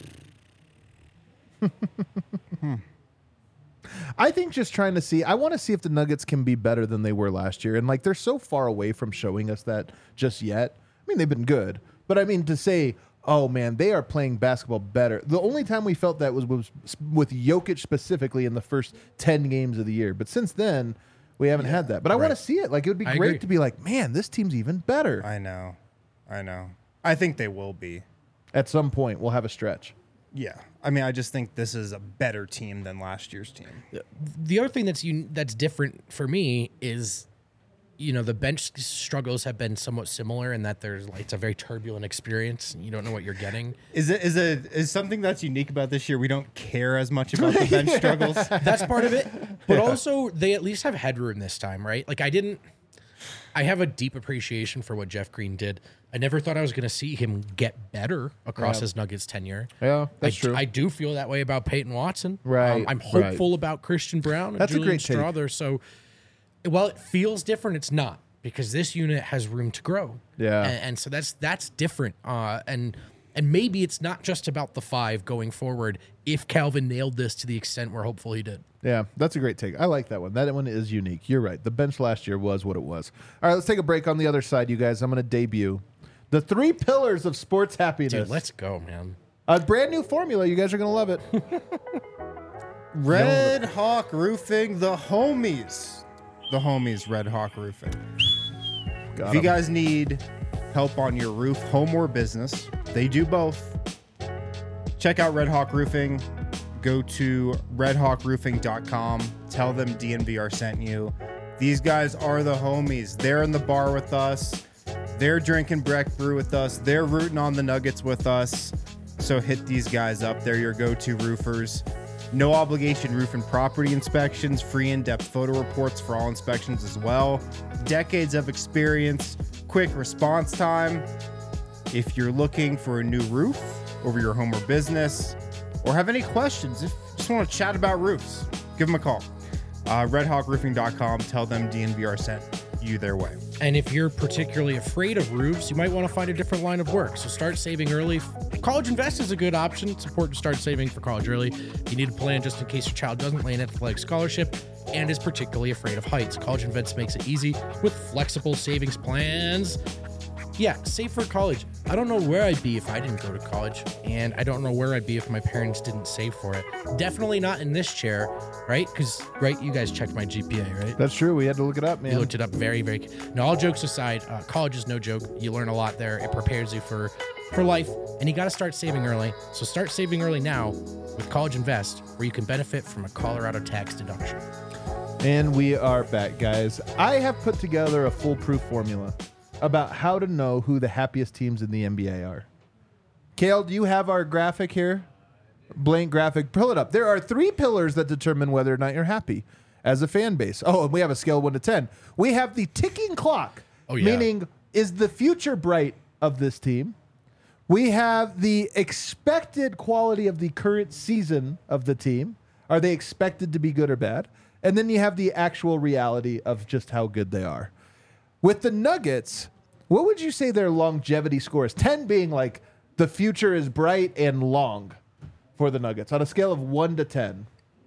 hmm. I think just trying to see, I want to see if the Nuggets can be better than they were last year. And like, they're so far away from showing us that just yet. I mean, they've been good, but I mean, to say, oh man, they are playing basketball better. The only time we felt that was, was with Jokic specifically in the first ten games of the year. But since then, we haven't yeah, had that. But I right. want to see it. Like, it would be I great agree. to be like, man, this team's even better. I know. I know. I think they will be. At some point, we'll have a stretch. Yeah. I mean, I just think this is a better team than last year's team. The other thing that's un- that's different for me is, you know, the bench struggles have been somewhat similar in that there's like, it's a very turbulent experience. You don't know what you're getting. Is it is it is something that's unique about this year? We don't care as much about the bench struggles. That's part of it. But yeah. also, they at least have headroom this time, right? Like, I didn't. I have a deep appreciation for what Jeff Green did. I never thought I was going to see him get better across yeah. his Nuggets tenure. Yeah, that's I, true. I do feel that way about Peyton Watson. Right. Um, I'm hopeful right. about Christian Brown and that's Julian a great Strawther. take. So while it feels different, it's not, because this unit has room to grow. Yeah. And, and so that's that's different. Uh, and and maybe it's not just about the five going forward if Calvin nailed this to the extent we're hopeful he did. Yeah, that's a great take. I like that one. That one is unique. You're right. The bench last year was what it was. All right, let's take a break on the other side, you guys. I'm going to debut the three pillars of sports happiness. Dude, let's go, man. A brand new formula. You guys are going to love it. Red Hawk Roofing, the homies. The homies, Red Hawk Roofing. Got if you em. guys need help on your roof, home or business, they do both. Check out Red Hawk Roofing. Go to red hawk roofing dot com. Tell them D N V R sent you. These guys are the homies. They're in the bar with us. They're drinking Breck Brew with us. They're rooting on the Nuggets with us. So hit these guys up. They're your go-to roofers. No obligation roof and property inspections. Free in-depth photo reports for all inspections as well. Decades of experience. Quick response time. If you're looking for a new roof over your home or business, or have any questions, if you just want to chat about roofs, give them a call. Uh, red hawk roofing dot com. Tell them D N V R sent you their way. And if you're particularly afraid of roofs, you might want to find a different line of work. So start saving early. College Invest is a good option. It's important to start saving for college early. You need a plan just in case your child doesn't land an athletic scholarship and is particularly afraid of heights. College Invest makes it easy with flexible savings plans. Yeah, save for college. I don't know where I'd be if I didn't go to college, and I don't know where I'd be if my parents didn't save for it. Definitely not in this chair, right? Because, right, you guys checked my G P A, right? That's true. We had to look it up, man. You looked it up very, very... Now, all jokes aside, uh, college is no joke. You learn a lot there. It prepares you for, for life, and you got to start saving early. So start saving early now with College Invest, where you can benefit from a Colorado tax deduction. And we are back, guys. I have put together a foolproof formula about how to know who the happiest teams in the N B A are. Kale, do you have our graphic here? Blank graphic. Pull it up. There are three pillars that determine whether or not you're happy as a fan base. Oh, and we have a scale of one to ten. We have the ticking clock, oh, yeah. meaning is the future bright of this team? We have the expected quality of the current season of the team. Are they expected to be good or bad? And then you have the actual reality of just how good they are. With the Nuggets, what would you say their longevity score is? ten being like the future is bright and long for the Nuggets on a scale of one to ten.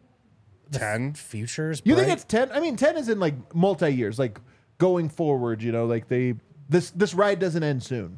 ten? Futures You bright? think it's ten? I mean, ten is in like multi-years, like going forward, you know, like they this this ride doesn't end soon.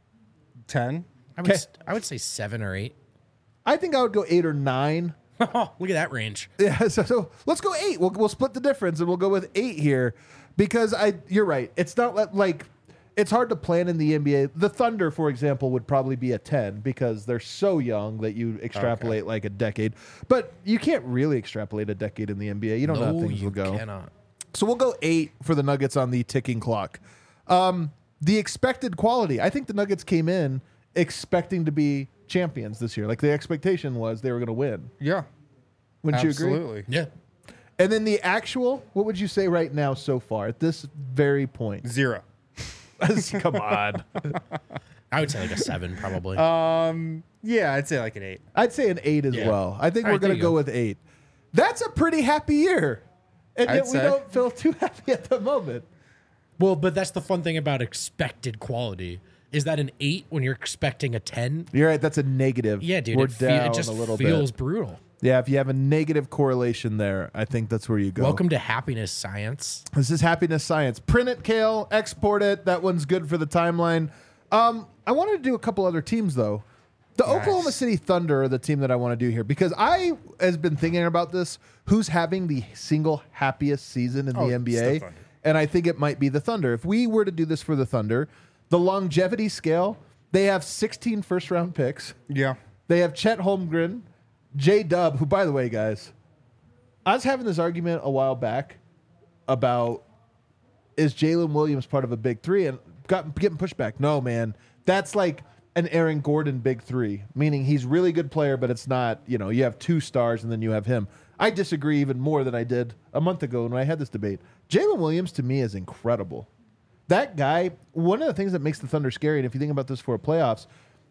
ten? I would, Okay. I would say seven or eight. I think I would go eight or nine. Oh, look at that range. Yeah, so, so let's go eight. We'll we'll split the difference and we'll go with eight here because I you're right. It's not like, like it's hard to plan in the N B A. The Thunder, for example, would probably be a ten because they're so young that you extrapolate Okay. like a decade. But you can't really extrapolate a decade in the N B A. You don't know No, how things you will go. cannot. So we'll go eight for the Nuggets on the ticking clock. Um, the expected quality. I think the Nuggets came in expecting to be champions this year. Like the expectation was they were going to win. Yeah. Wouldn't Absolutely. you agree? Yeah. And then the actual, what would you say right now so far at this very point? Zero. Come on. I would say like a seven, probably. Um. Yeah, I'd say like an eight. I'd say an eight as Yeah. well. I think All we're right, there going to you go go. with eight. That's a pretty happy year. And I'd yet we say. don't feel too happy at the moment. Well, but that's the fun thing about expected quality. Is that an eight when you're expecting a ten? You're right. That's a negative. Yeah, dude. We're It, fe- down it just a little feels bit. brutal. Yeah, if you have a negative correlation there, I think that's where you go. Welcome to happiness science. This is happiness science. Print it, Kale. Export it. That one's good for the timeline. Um, I wanted to do a couple other teams though. The Nice. Oklahoma City Thunder are the team that I want to do here because I has been thinking about this. Who's having the single happiest season in Oh, the N B it's A? the Thunder. And I think it might be the Thunder. If we were to do this for the Thunder, the longevity scale, they have sixteen first round picks. Yeah. They have Chet Holmgren, J Dub, who, by the way, guys, I was having this argument a while back about is Jalen Williams part of a big three, and got getting pushback. No, man, that's like an Aaron Gordon big three, meaning he's really good player, but it's not. You know, you have two stars and then you have him. I disagree even more than I did a month ago when I had this debate. Jalen Williams to me is incredible. That guy, one of the things that makes the Thunder scary, and if you think about this for playoffs,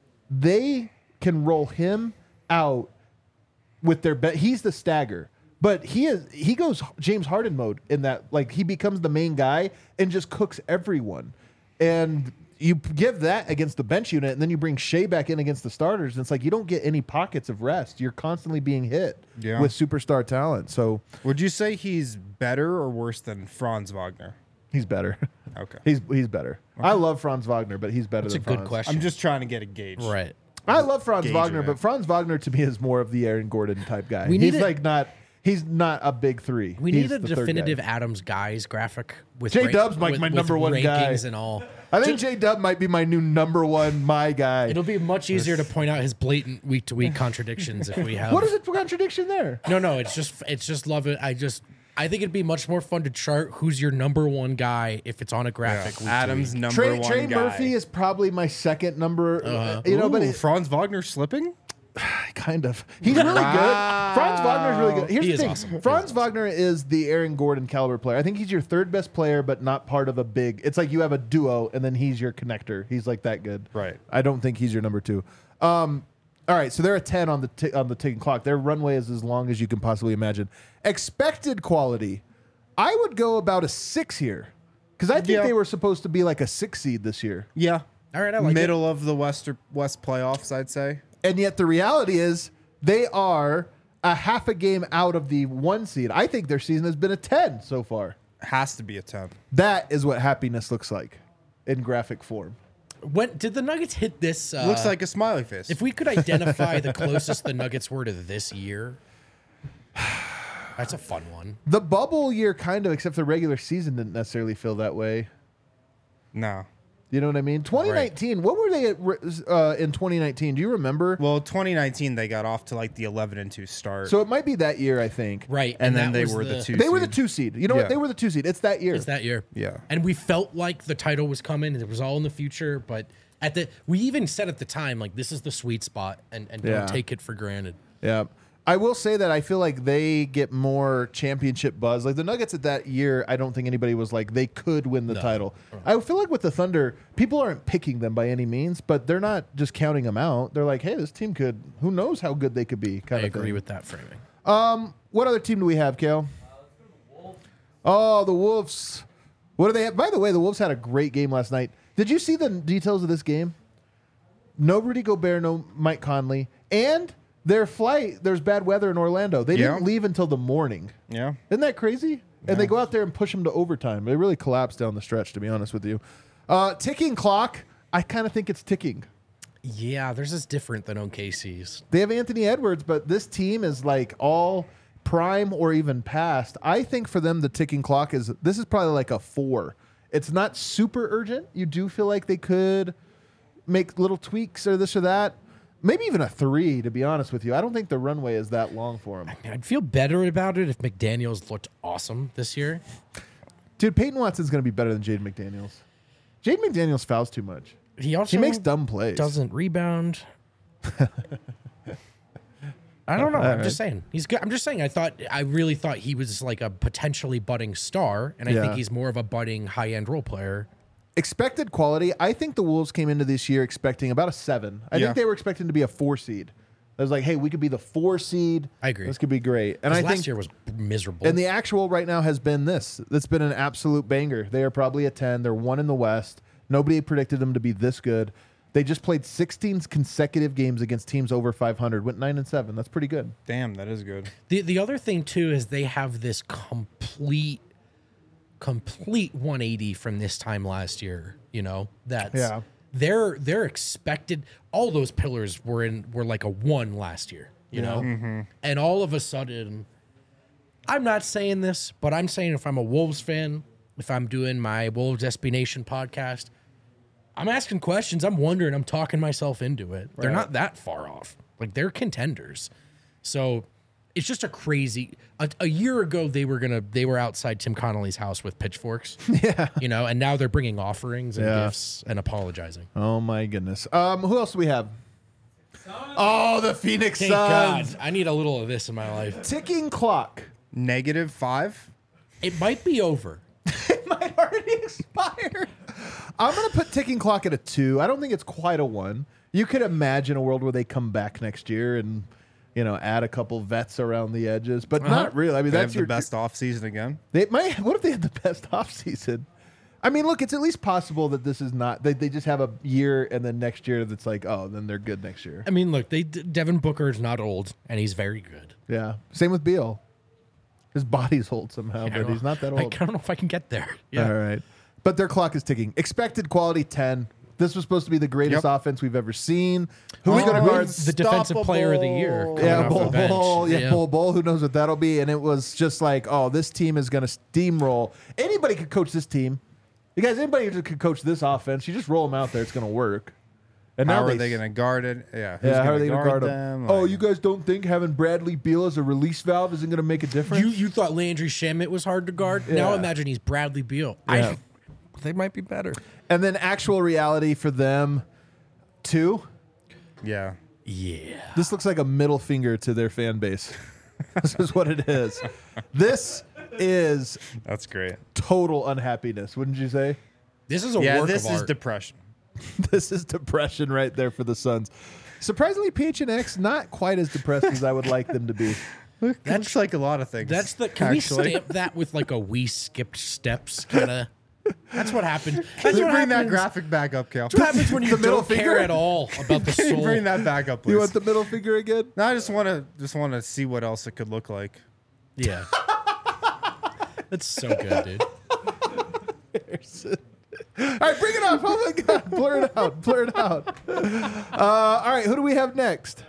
they can roll him out with their bet. He's the stagger, but he is he goes James Harden mode in that, like he becomes the main guy and just cooks everyone. And you give that against the bench unit, and then you bring Shea back in against the starters, and it's like you don't get any pockets of rest. You're constantly being hit Yeah. with superstar talent. So Would you say he's better or worse than Franz Wagner? he's better. Okay. he's he's better. I love Franz Wagner, but he's better That's a than good Franz. question. I'm just trying to get a gauge. Right. I love Franz Gauge Wagner, it. but Franz Wagner to me is more of the Aaron Gordon type guy. We he's need a- like not he's not a big three. We He's need a the third guy. definitive Adams guys graphic with J ra- Dub's like with- my with number one guy. rankings and all. I think J Dub might be my new number one my guy. It'll be much easier to point out his blatant week to week contradictions if we have. What is it for contradiction there? No, no, it's just it's just love it. I just I think it'd be much more fun to chart who's your number one guy if it's on a graphic. week to Adams week. number Trey, one Trey guy. Murphy is probably my second number. Uh-huh. you know, but Ooh, it, Franz Wagner slipping? kind of. He's really good. Franz Wagner's really good. Here's He the is thing. awesome. He is Franz awesome. Wagner is the Aaron Gordon caliber player. I think he's your third best player, but not part of a big. It's like you have a duo, and then he's your connector. He's like that good. Right. I don't think he's your number two. Um, all right, so they're a ten on the t- on the ticking clock. Their runway is as long as you can possibly imagine. Expected quality, I would go about a six here because I think Yeah. they were supposed to be like a six seed this year. Yeah. All right, I like Middle of the West West playoffs, I'd say. And yet the reality is they are a half a game out of the one seed. I think their season has been a ten so far. Has to be a ten. That is what happiness looks like in graphic form. it. When did the Nuggets hit this? Uh, Looks like a smiley face. if we could identify the closest the Nuggets were to this year. That's a fun one. The bubble year kind of, except the regular season didn't necessarily feel that way. no. You know what I mean? twenty nineteen, what were they at, uh, in twenty nineteen? Do you remember? Well, twenty nineteen they got off to like the eleven and two start. So it might be that year, I think. Right. and, then that they was were the, two. They were the seed. two seed. You know Yeah. what? They were the two seed. It's that year. It's that year. Yeah. And we felt like the title was coming and it was all in the future, but at the we even said at the time, like this is the sweet spot and, and Yeah. don't take it for granted. Yeah. I will say that I feel like they get more championship buzz. Like the Nuggets at that year, I don't think anybody was like they could win the title. I feel like with the Thunder, people aren't picking them by any means, but they're not just counting them out. They're like, hey, this team could, who knows how good they could be, I kind of agree thing. with that framing. Um, what other team do we have, Kale? Oh, the Wolves. What do they have? By the way, the Wolves had a great game last night. Did you see the details of this game? No Rudy Gobert, no Mike Conley, and their flight. There's bad weather in Orlando. They Yeah. didn't leave until the morning. Yeah. Isn't that crazy? And they go out there and push them to overtime. They really collapsed down the stretch, to be honest with you. Uh, ticking clock. I kind of think it's ticking. Yeah, theirs is different than O K C's. They have Anthony Edwards, but this team is like all prime or even past. I think for them, the ticking clock is this is probably like a four. It's not super urgent. You do feel like they could make little tweaks or this or that. Maybe even a three, to be honest with you. I don't think the runway is that long for them. I'd feel better about it if McDaniels looked awesome this year. Dude, Peyton Watson's going to be better than Jaden McDaniels. Jaden McDaniels fouls too much. He also He makes dumb plays. doesn't rebound. I don't know. I'm right. just saying he's good. I'm just saying. I thought I really thought he was like a potentially budding star, and I Yeah. think he's more of a budding high end role player. Expected quality, I think the Wolves came into this year expecting about a seven. I Yeah. think they were expecting to be a four seed. It was like, hey, we could be the four seed. I agree. This could be great. And I last think year was miserable. and the actual right now has been this. It's been an absolute banger. They are probably a ten. They're one in the West. Nobody predicted them to be this good. They just played sixteen consecutive games against teams over five hundred. Went nine and seven. That's pretty good. Damn, that is good. The the other thing too is they have this complete complete one eighty from this time last year, you know. That's Yeah. They're they're expected all those pillars were in were like a one last year, you know. Mm-hmm. And all of a sudden I'm not saying this, but I'm saying if I'm a Wolves fan, if I'm doing my Wolves S B Nation podcast, I'm asking questions. I'm wondering. I'm talking myself into it. They're Right. not that far off. Like they're contenders. So it's just a crazy. A, a year ago, they were gonna. They were outside Tim Connolly's house with pitchforks. Yeah. You know, and now they're bringing offerings and Yeah. gifts and apologizing. Oh my goodness. Um, who else do we have? Oh, the Phoenix Thank Suns. God, I need a little of this in my life. Ticking clock. Negative five? It might be over. It might already expire. I'm going to put ticking clock at a two. I don't think it's quite a one. You could imagine a world where they come back next year and, you know, add a couple vets around the edges, but Uh-huh. not really. I mean, They that's have your the best offseason again. They might. What if they had the best offseason? I mean, look, it's at least possible that this is not. They, they just have a year and then next year that's like, oh, then they're good next year. I mean, look, they Devin Booker is not old, and he's very good. Yeah. Same with Beal. His body's old somehow, I but don't- he's not that I old. don't know if I can get there. Yeah. All right. But their clock is ticking. Expected quality ten. This was supposed to be the greatest Yep. offense we've ever seen. Who's Oh, going to guard? The defensive player of the year. Unstoppable. coming Yeah, off the Bull bench. Bull. Yeah, Bull Bull. Who knows what that'll be? And it was just like, oh, this team is going to steamroll. Anybody could coach this team. You guys, anybody could coach this offense. You just roll them out there, it's going to work. And How now are they going to guard it? Yeah. who's Yeah, how gonna are they going to guard them? them? Oh, Like, you guys don't think having Bradley Beal as a release valve isn't going to make a difference? You you thought Landry Shamet was hard to guard? Now Yeah. imagine he's Bradley Beal. Yeah. I, they might be better. and then actual reality for them, two. Yeah. Yeah. This looks like a middle finger to their fan base. This is what it is. This is That's great. total unhappiness, wouldn't you say? This is a Yeah, work this of is art. depression. This is depression right there for the Suns. Surprisingly, P H N X not quite as depressed as I would like them to be. That's like a lot of things. That's the. Can actually. we stamp that with like a we skipped steps kind of? That's what happened. Can That's you what bring that happens. graphic back up, Cal? What happens when you The middle don't care finger? at all about the Can you soul? bring that back up, please? You want the middle finger again? no, I just want to just want to see what else it could look like. Yeah. That's so good, dude. All right, bring it up. Oh my God. Blur it out. Blur it out. Uh, all right, who do we have next?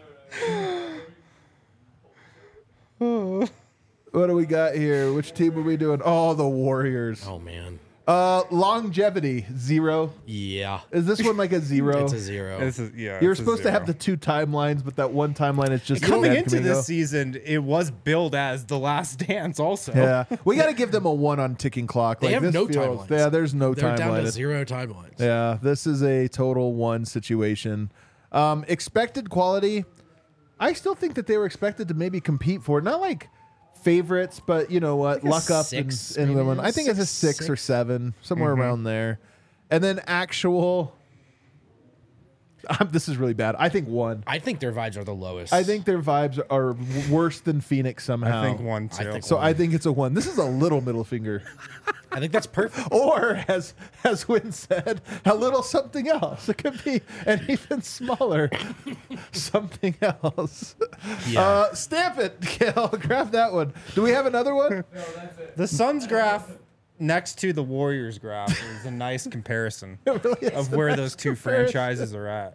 What do we got here? Which team are we doing? Oh, the Warriors. Oh man. Uh, longevity, zero. Yeah. Is this one like a zero? It's a zero. This is yeah. You're it's a supposed to have zero. the two timelines, but that one timeline is just Coming Ted into Domingo. this season, it was billed as The Last Dance. Also, Yeah, we got to give them a one on ticking clock. They like, have this no feels, timelines. Yeah, there's no They're down timeline. to zero timelines. Yeah, this is a total one situation. Um, expected quality, I still think that they were expected to maybe compete for it. Not like favorites, but you know what, Like a luck up six, and, and maybe? win. I think it's a Six, six, or six? seven, somewhere around there. And then actual, um, this is really bad. I think one. I think their vibes are the lowest. I think their vibes are w- worse than Phoenix somehow. I think one I too. think So one. I think it's a one. This is a little middle finger. I think that's perfect. Or, as as Wynn said, a little something else. It could be an even smaller something else. Yeah. Uh, stamp it, Gail. Grab that one. Do we have another one? The Suns graph next to the Warriors graph is a nice comparison of where those two franchises are at.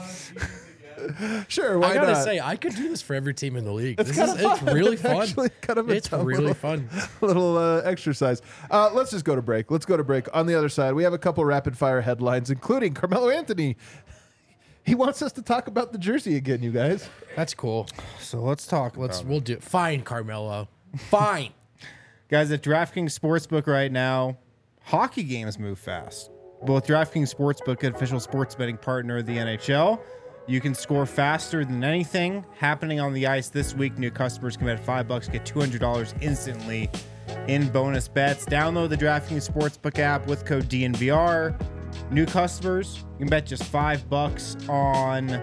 Sure, why I gotta not? say, I could do this for every team in the league. This kinda is it's fun. really It's fun. actually kind of a it's dumb really little- fun. little uh, exercise. Uh, let's just go to break. Let's go to break. On the other side, we have a couple rapid fire headlines, including Carmelo Anthony. He wants us to talk about the jersey again, you guys. That's cool. So let's talk Let's about we'll do fine, Carmelo. Fine. Guys, at DraftKings Sportsbook right now, hockey games move fast. Both DraftKings Sportsbook, an official sports betting partner of the N H L, you can score faster than anything happening on the ice this week. New customers can bet five bucks, get two hundred dollars instantly in bonus bets. Download the DraftKings Sportsbook app with code D N V R. New customers, you can bet just five bucks on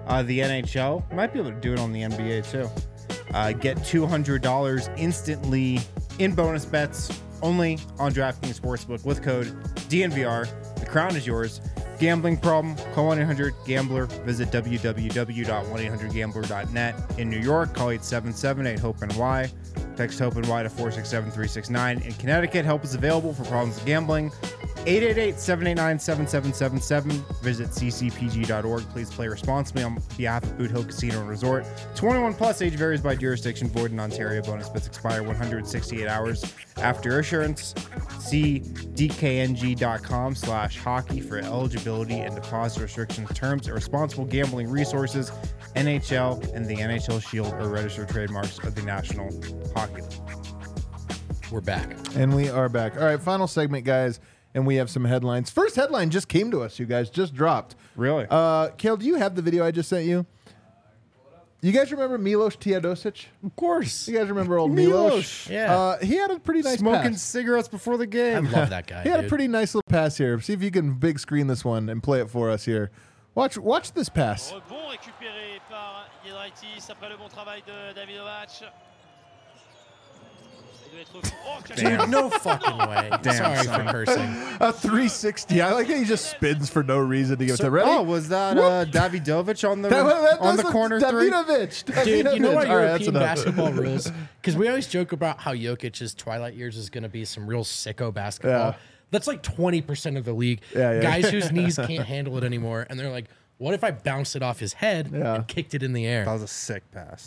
Uh, the N H L might be able to do it on the N B A too. Uh, get two hundred dollars instantly in bonus bets only on DraftKings Sportsbook with code D N V R. The crown is yours. Gambling problem? Call one eight hundred gambler. Visit w w w dot one eight hundred gambler dot net. In New York, call eight seven seven eight hope N Y. Text HOPE N Y to four six seven three six nine. In Connecticut, help is available for problems with gambling. eight eight eight seven eight nine seven seven seven seven. Visit c c p g dot org. Please play responsibly on behalf of Boot Hill Casino and Resort. twenty-one plus, age varies by jurisdiction. Void in Ontario. Bonus bets expire one hundred sixty-eight hours after issuance. See d k n g dot com slash hockey for eligibility and deposit restrictions, terms, and responsible gambling resources. N H L and the N H L Shield are registered trademarks of the National Hockey League. We're back. And we are back. All right, final segment, guys. And we have some headlines. First headline just came to us, you guys. Just dropped. Really? Uh, Kale, do you have the video I just sent you? You guys remember Milos Teodosic? Of course. You guys remember old Milos? Milos. Yeah. Uh, he had a pretty nice Smoking pass. cigarettes before the I game. love that guy. He had dude. a pretty nice little pass here. See if you can big screen this one and play it for us here. Watch watch this pass. Rebond récupéré par Giedraitis après le bon travail de Davidovich. Il doit être fou. Oh, Damn. Dude, no fucking way. Damn, Sorry son. for cursing. A three sixty. I like how he just spins for no reason to give it to Ready? Oh, was that uh, Davidovich on the That- that- on the that's corner three? Davidovich. Dude, you know Davidovich. what All right, that's European enough. basketball rules? Because we always joke about how Jokic's twilight years is going to be some real sicko basketball. Yeah. That's like twenty percent of the league. Yeah, yeah. Guys whose knees can't handle it anymore. And they're like, what if I bounced it off his head Yeah. and kicked it in the air? That was a sick pass.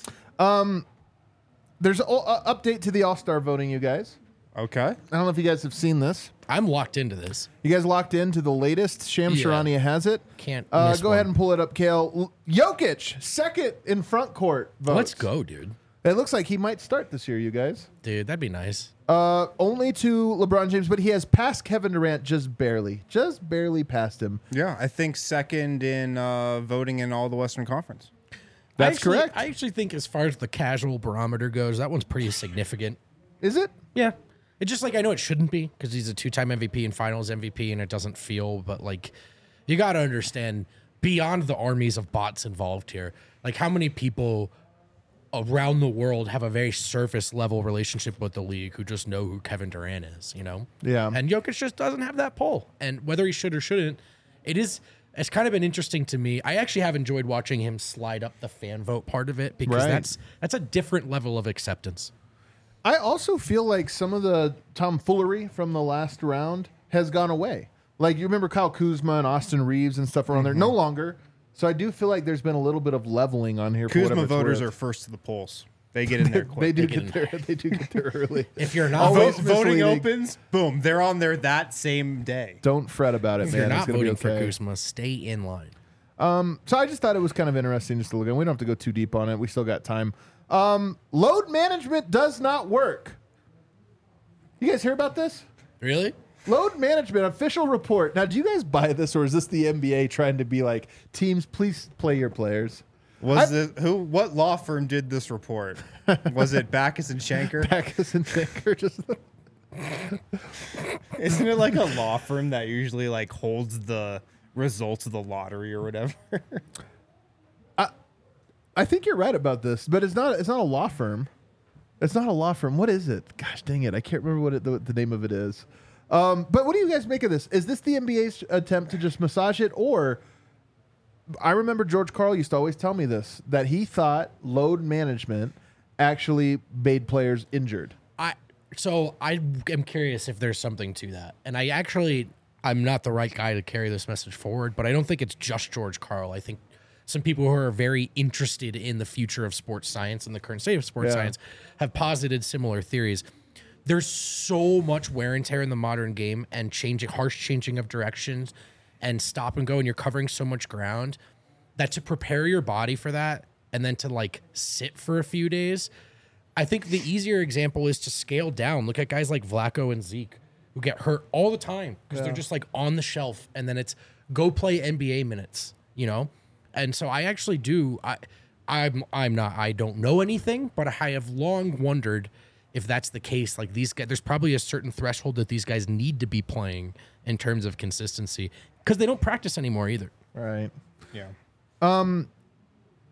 There's an uh, update to the All-Star voting, you guys. Okay. I don't know if you guys have seen this. I'm locked into this. You guys locked into the latest? Sham Yeah. Charania has it. Can't Uh, miss go one. ahead and pull it up, Kale. L- Jokic, second in front court votes. Let's go, dude. It looks like he might start this year, you guys. Dude, that'd be nice. Uh, only to LeBron James, but he has passed Kevin Durant just barely. Just barely passed him. Yeah, I think second in uh, voting in all the Western Conference. That's I actually, correct. I actually think as far as the casual barometer goes, that one's pretty significant. Is it? Yeah. It's just like, I know it shouldn't be because he's a two-time M V P and finals M V P and it doesn't feel, but like, you got to understand beyond the armies of bots involved here, like how many people around the world have a very surface level relationship with the league who just know who Kevin Durant is, you know? Yeah. And Jokic just doesn't have that pull. And whether he should or shouldn't, it is, it's kind of been interesting to me. I actually have enjoyed watching him slide up the fan vote part of it because Right. that's, that's a different level of acceptance. I also feel like some of the tomfoolery from the last round has gone away. Like, you remember Kyle Kuzma and Austin Reeves and stuff around there? No longer. So I do feel like there's been a little bit of leveling on here. For Kuzma whatever it's voters worth. are first to the polls. They get in there quick. They do They get get there. They do get there early. If you're not Always Vote, voting misleading. opens, boom, they're on there that same day. Don't fret about it, If man. you're It's not gonna be voting for okay. Kuzma, stay in line. So I just thought it was kind of interesting just to look at. We don't have to go too deep on it. We still got time. Um, load management does not work. You guys hear about this? Really? Load management official report. Now, do you guys buy this, or is this the N B A trying to be like, teams, please play your players? Was it who? What law firm did this report? Was it Backus and Shanker? Backus and Shanker just. Isn't it like a law firm that usually like holds the results of the lottery or whatever? I think you're right about this, but it's not. It's not a law firm. It's not a law firm. What is it? Gosh, dang it! I can't remember what it, the, the name of it is. Um, but what do you guys make of this? Is this the N B A's attempt to just massage it, or? I remember George Karl used to always tell me this, that he thought load management actually made players injured. I so I am curious if there's something to that. And I actually I'm not the right guy to carry this message forward, but I don't think it's just George Karl. I think some people who are very interested in the future of sports science and the current state of sports Yeah. science have posited similar theories. There's so much wear and tear in the modern game and changing harsh changing of directions and stop and go, and you're covering so much ground that to prepare your body for that and then to like sit for a few days, I think the easier example is to scale down. Look at guys like Vlaco and Zeke who get hurt all the time because they're just like on the shelf, and then it's go play N B A minutes, you know? And so I actually do, I, I'm, I'm not, I don't know anything, but I have long wondered if that's the case. Like these guys, there's probably a certain threshold that these guys need to be playing in terms of consistency because they don't practice anymore either. Right. Yeah.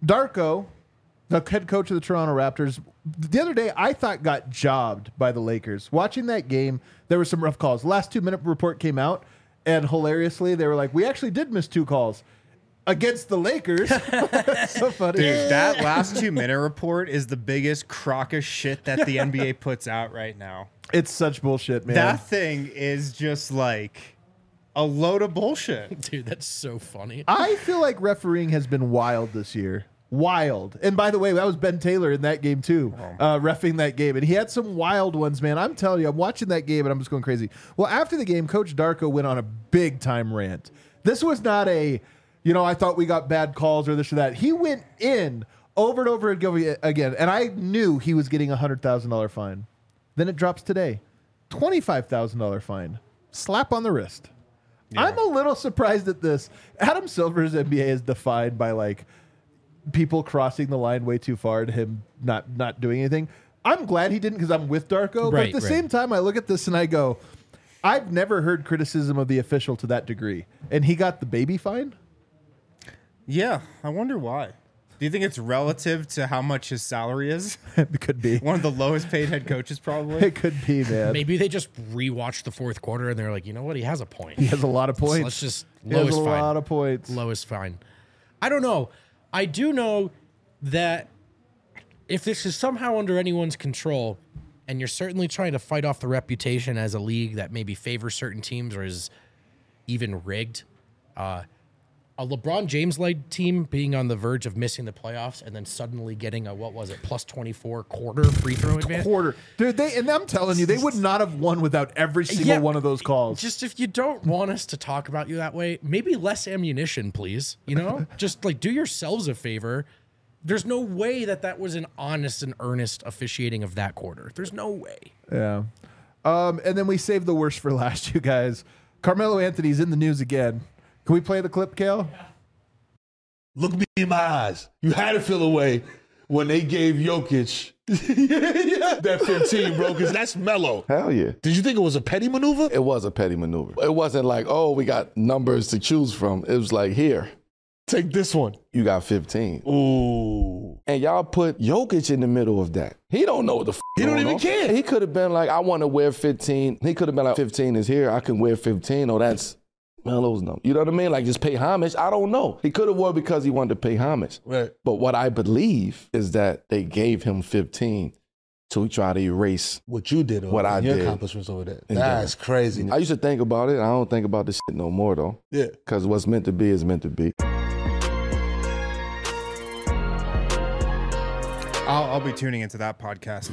Darko, the head coach of the Toronto Raptors, the other day I thought got jobbed by the Lakers. Watching that game, there were some rough calls. The last two-minute report came out, and hilariously, they were like, we actually did miss two calls against the Lakers. So funny. Dude, that last two-minute report is the biggest crock of shit that the N B A puts out right now. It's such bullshit, man. That thing is just like a load of bullshit. Dude, that's so funny. I feel like refereeing has been wild this year. Wild. And by the way, that was Ben Taylor in that game too, uh, reffing that game. And he had some wild ones, man. I'm telling you, I'm watching that game and I'm just going crazy. Well, after the game, Coach Darko went on a big time rant. This was not a, you know, I thought we got bad calls or this or that. He went in over and over again. And I knew he was getting a one hundred thousand dollars fine. Then it drops today. twenty-five thousand dollars fine. Slap on the wrist. Yeah. I'm a little surprised at this. Adam Silver's N B A is defined by like people crossing the line way too far to him not not doing anything. I'm glad he didn't because I'm with Darko. Right, but at the right. same time, I look at this and I go, I've never heard criticism of the official to that degree. And he got the baby fine? Yeah, I wonder why. Do you think it's relative to how much his salary is? It could be. One of the lowest paid head coaches, probably. It could be, man. Maybe they just rewatched the fourth quarter and they're like, you know what? He has a point. He has a lot of points. So let's just he lowest has a fine. lot of points. Lowest fine. I don't know. I do know that if this is somehow under anyone's control, and you're certainly trying to fight off the reputation as a league that maybe favors certain teams or is even rigged, uh, a LeBron James-led team being on the verge of missing the playoffs and then suddenly getting a, what was it, plus twenty-four quarter free throw advantage? Quarter. Dude, they, and I'm telling you, they would not have won without every single Yeah, one of those calls. Just if you don't want us to talk about you that way, maybe less ammunition, please. You know, just like do yourselves a favor. There's no way that that was an honest and earnest officiating of that quarter. There's no way. Yeah. Um, and then we saved the worst for last, you guys. Carmelo Anthony's in the news again. Can we play the clip, Kale? Look me in my eyes. You had to feel away when they gave Jokic that fifteen, bro, because that's Melo. Hell yeah. Did you think it was a petty maneuver? It was a petty maneuver. It wasn't like, oh, we got numbers to choose from. It was like, here. Take this one. You got fifteen. Ooh. And y'all put Jokic in the middle of that. He don't know what the f*** He don't even on. care. He could have been like, I want to wear fifteen. He could have been like, fifteen is here. I can wear fifteen. Oh, that's Melo's number. You know what I mean? Like, just pay homage. I don't know. He could have wore because he wanted to pay homage. Right. But what I believe is that they gave him fifteen to try to erase what you did over what I your did. accomplishments over there. And That's then, crazy. I used to think about it. I don't think about this shit no more, though. Yeah. Because what's meant to be is meant to be. I'll, I'll be tuning into that podcast.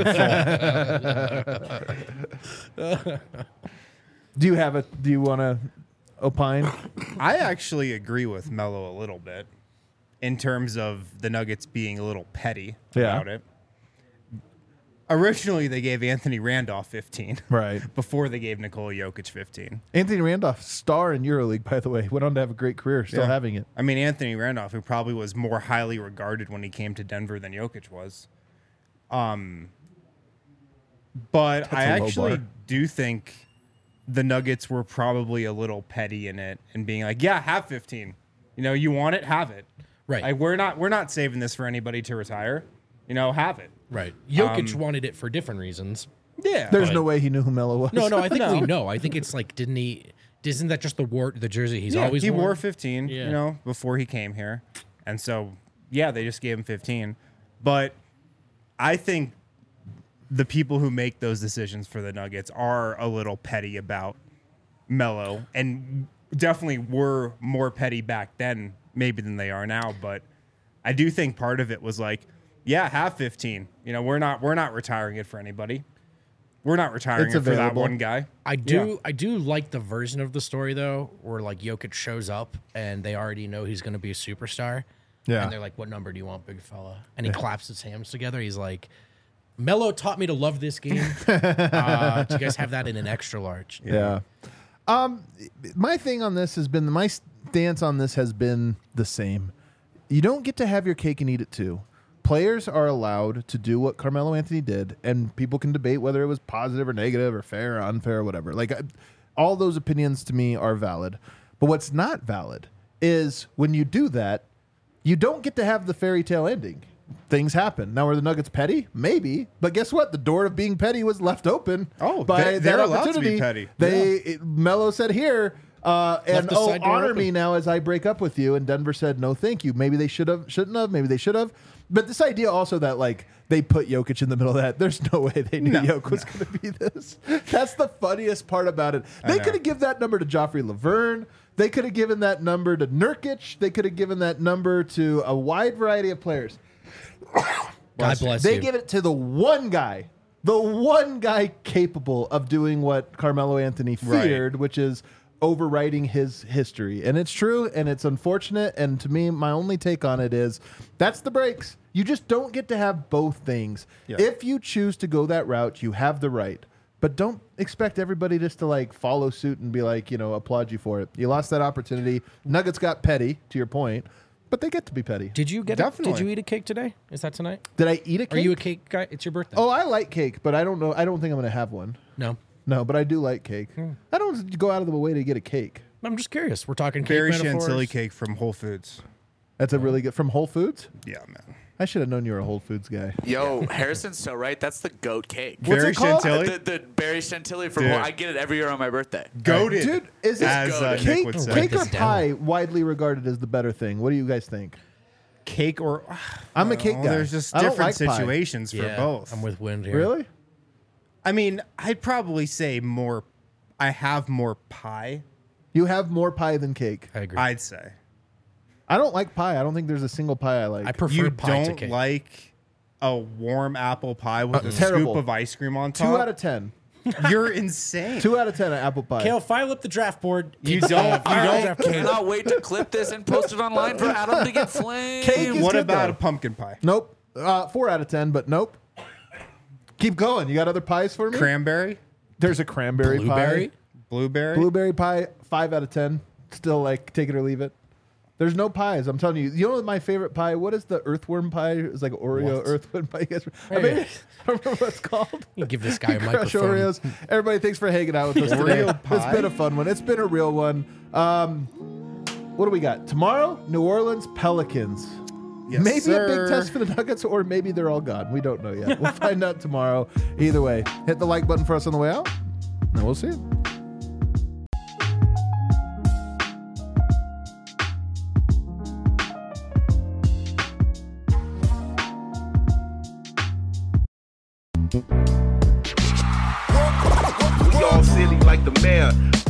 Do you have a, do you want to opine? I actually agree with Melo a little bit in terms of the Nuggets being a little petty Yeah. about it. Originally, they gave Anthony Randolph fifteen. Right. Before they gave Nikola Jokic fifteen. Anthony Randolph, star in EuroLeague, by the way. Went on to have a great career, still Yeah. having it. I mean, Anthony Randolph, who probably was more highly regarded when he came to Denver than Jokic was. Um, but That's I a low actually bar. do think the Nuggets were probably a little petty in it and being like, yeah, have fifteen. You know, you want it, have it. Right. Like, we're not we're not saving this for anybody to retire. You know, have it. Right. Jokic Um, wanted it for different reasons. Yeah. There's But- no way he knew who Melo was. No, no, I think No. we know. I think it's like, didn't he? Isn't that just the war, the jersey he's yeah, always he worn? wore fifteen, Yeah. you know, before he came here. And so, yeah, they just gave him fifteen. But I think the people who make those decisions for the Nuggets are a little petty about Melo and definitely were more petty back then maybe than they are now, but I do think part of it was like, yeah, have fifteen. You know, we're not we're not retiring it for anybody. We're not retiring It's it for that available. one guy. I do Yeah. I do like the version of the story though, where like Jokic shows up and they already know he's gonna be a superstar. Yeah. And they're like, what number do you want, big fella? And he claps his hands together. He's like, Melo taught me to love this game. uh, do you guys have that in an extra large? Yeah. Um, my thing on this has been, my stance on this has been the same. You don't get to have your cake and eat it too. Players are allowed to do what Carmelo Anthony did, and people can debate whether it was positive or negative or fair or unfair or whatever. Like, I, all those opinions to me are valid. But what's not valid is when you do that, you don't get to have the fairy tale ending. Things happen. Now, are the Nuggets petty? Maybe. But guess what? The door of being petty was left open. Oh, by they- they're that allowed to be opportunity. petty. They it, Melo said here, uh, and the oh, side door honor open. me now as I break up with you. And Denver said, no, thank you. Maybe they should have, shouldn't have. Maybe they should have. But this idea also that like they put Jokic in the middle of that. There's no way they knew No, Jokic was going to be this. That's the funniest part about it. They know. could have given that number to Joffrey Laverne. They could have given that number to Nurkic. They could have given that number to a wide variety of players. God bless They you. give it to the one guy, the one guy capable of doing what Carmelo Anthony feared, which is overwriting his history. And it's true, and it's unfortunate. And to me, my only take on it is that's the breaks. You just don't get to have both things. Yeah. If you choose to go that route, you have the right. But don't expect everybody just to like follow suit and be like, you know, applaud you for it. You lost that opportunity. Nuggets got petty, to your point, but they get to be petty. Did you get? A, Definitely. did you eat a cake today? Is that tonight? Did I eat a cake? Are you a cake guy? It's your birthday. Oh, I like cake, but I don't know. I don't think I'm going to have one. No, No, but I do like cake. Hmm. I don't go out of the way to get a cake. I'm just curious. We're talking cake Berry metaphors. chantilly cake from Whole Foods. That's a really good from Whole Foods. Yeah, man. I should have known you were a Whole Foods guy. Yo, Harrison's so right. That's the goat cake. What's Berry it called? chantilly. The, the berry chantilly from Dude. I get it every year on my birthday. Goated. Dude, is it as uh, goated. Nick cake? would say. Cake or this down. pie widely regarded as the better thing? What do you guys think? Cake or I'm a cake Well, guy. There's just I don't different like pie. situations for Yeah, both. I'm with Wind here. Really? I mean, I'd probably say more. I have more pie. You have more pie than cake. I agree. I'd say I don't like pie. I don't think there's a single pie I like. I prefer you pie to don't cake. like a warm apple pie with a terrible. scoop of ice cream on Two top. out of ten. You're insane. Two out of ten at apple pie. Kale, file up the draft board. You It's, don't- uh, you file don't- the draft board. Cannot wait to clip this and post it online for Adam to get flamed. Cake is What good, about though. a pumpkin pie? Nope. Uh, four out of ten, but nope. Keep going. You got other pies for me? Cranberry, There's a cranberry Blueberry. pie. blueberry. Blueberry pie, five out of ten. Still like take it or leave it. There's no pies. I'm telling you. You know what my favorite pie? What is the earthworm pie? It's like Oreo What? earthworm pie. You guys, I, Hey. mean, I don't remember what it's called. You give this guy a Crush microphone. Oreos. Everybody, thanks for hanging out with us today. Oreo It's pie? been a fun one. It's been a real one. Um, what do we got tomorrow? New Orleans Pelicans. Yes, maybe sir. a big test for the Nuggets, or maybe they're all gone. We don't know yet. We'll find out tomorrow. Either way, hit the like button for us on the way out, and we'll see you. We all silly like the mayor.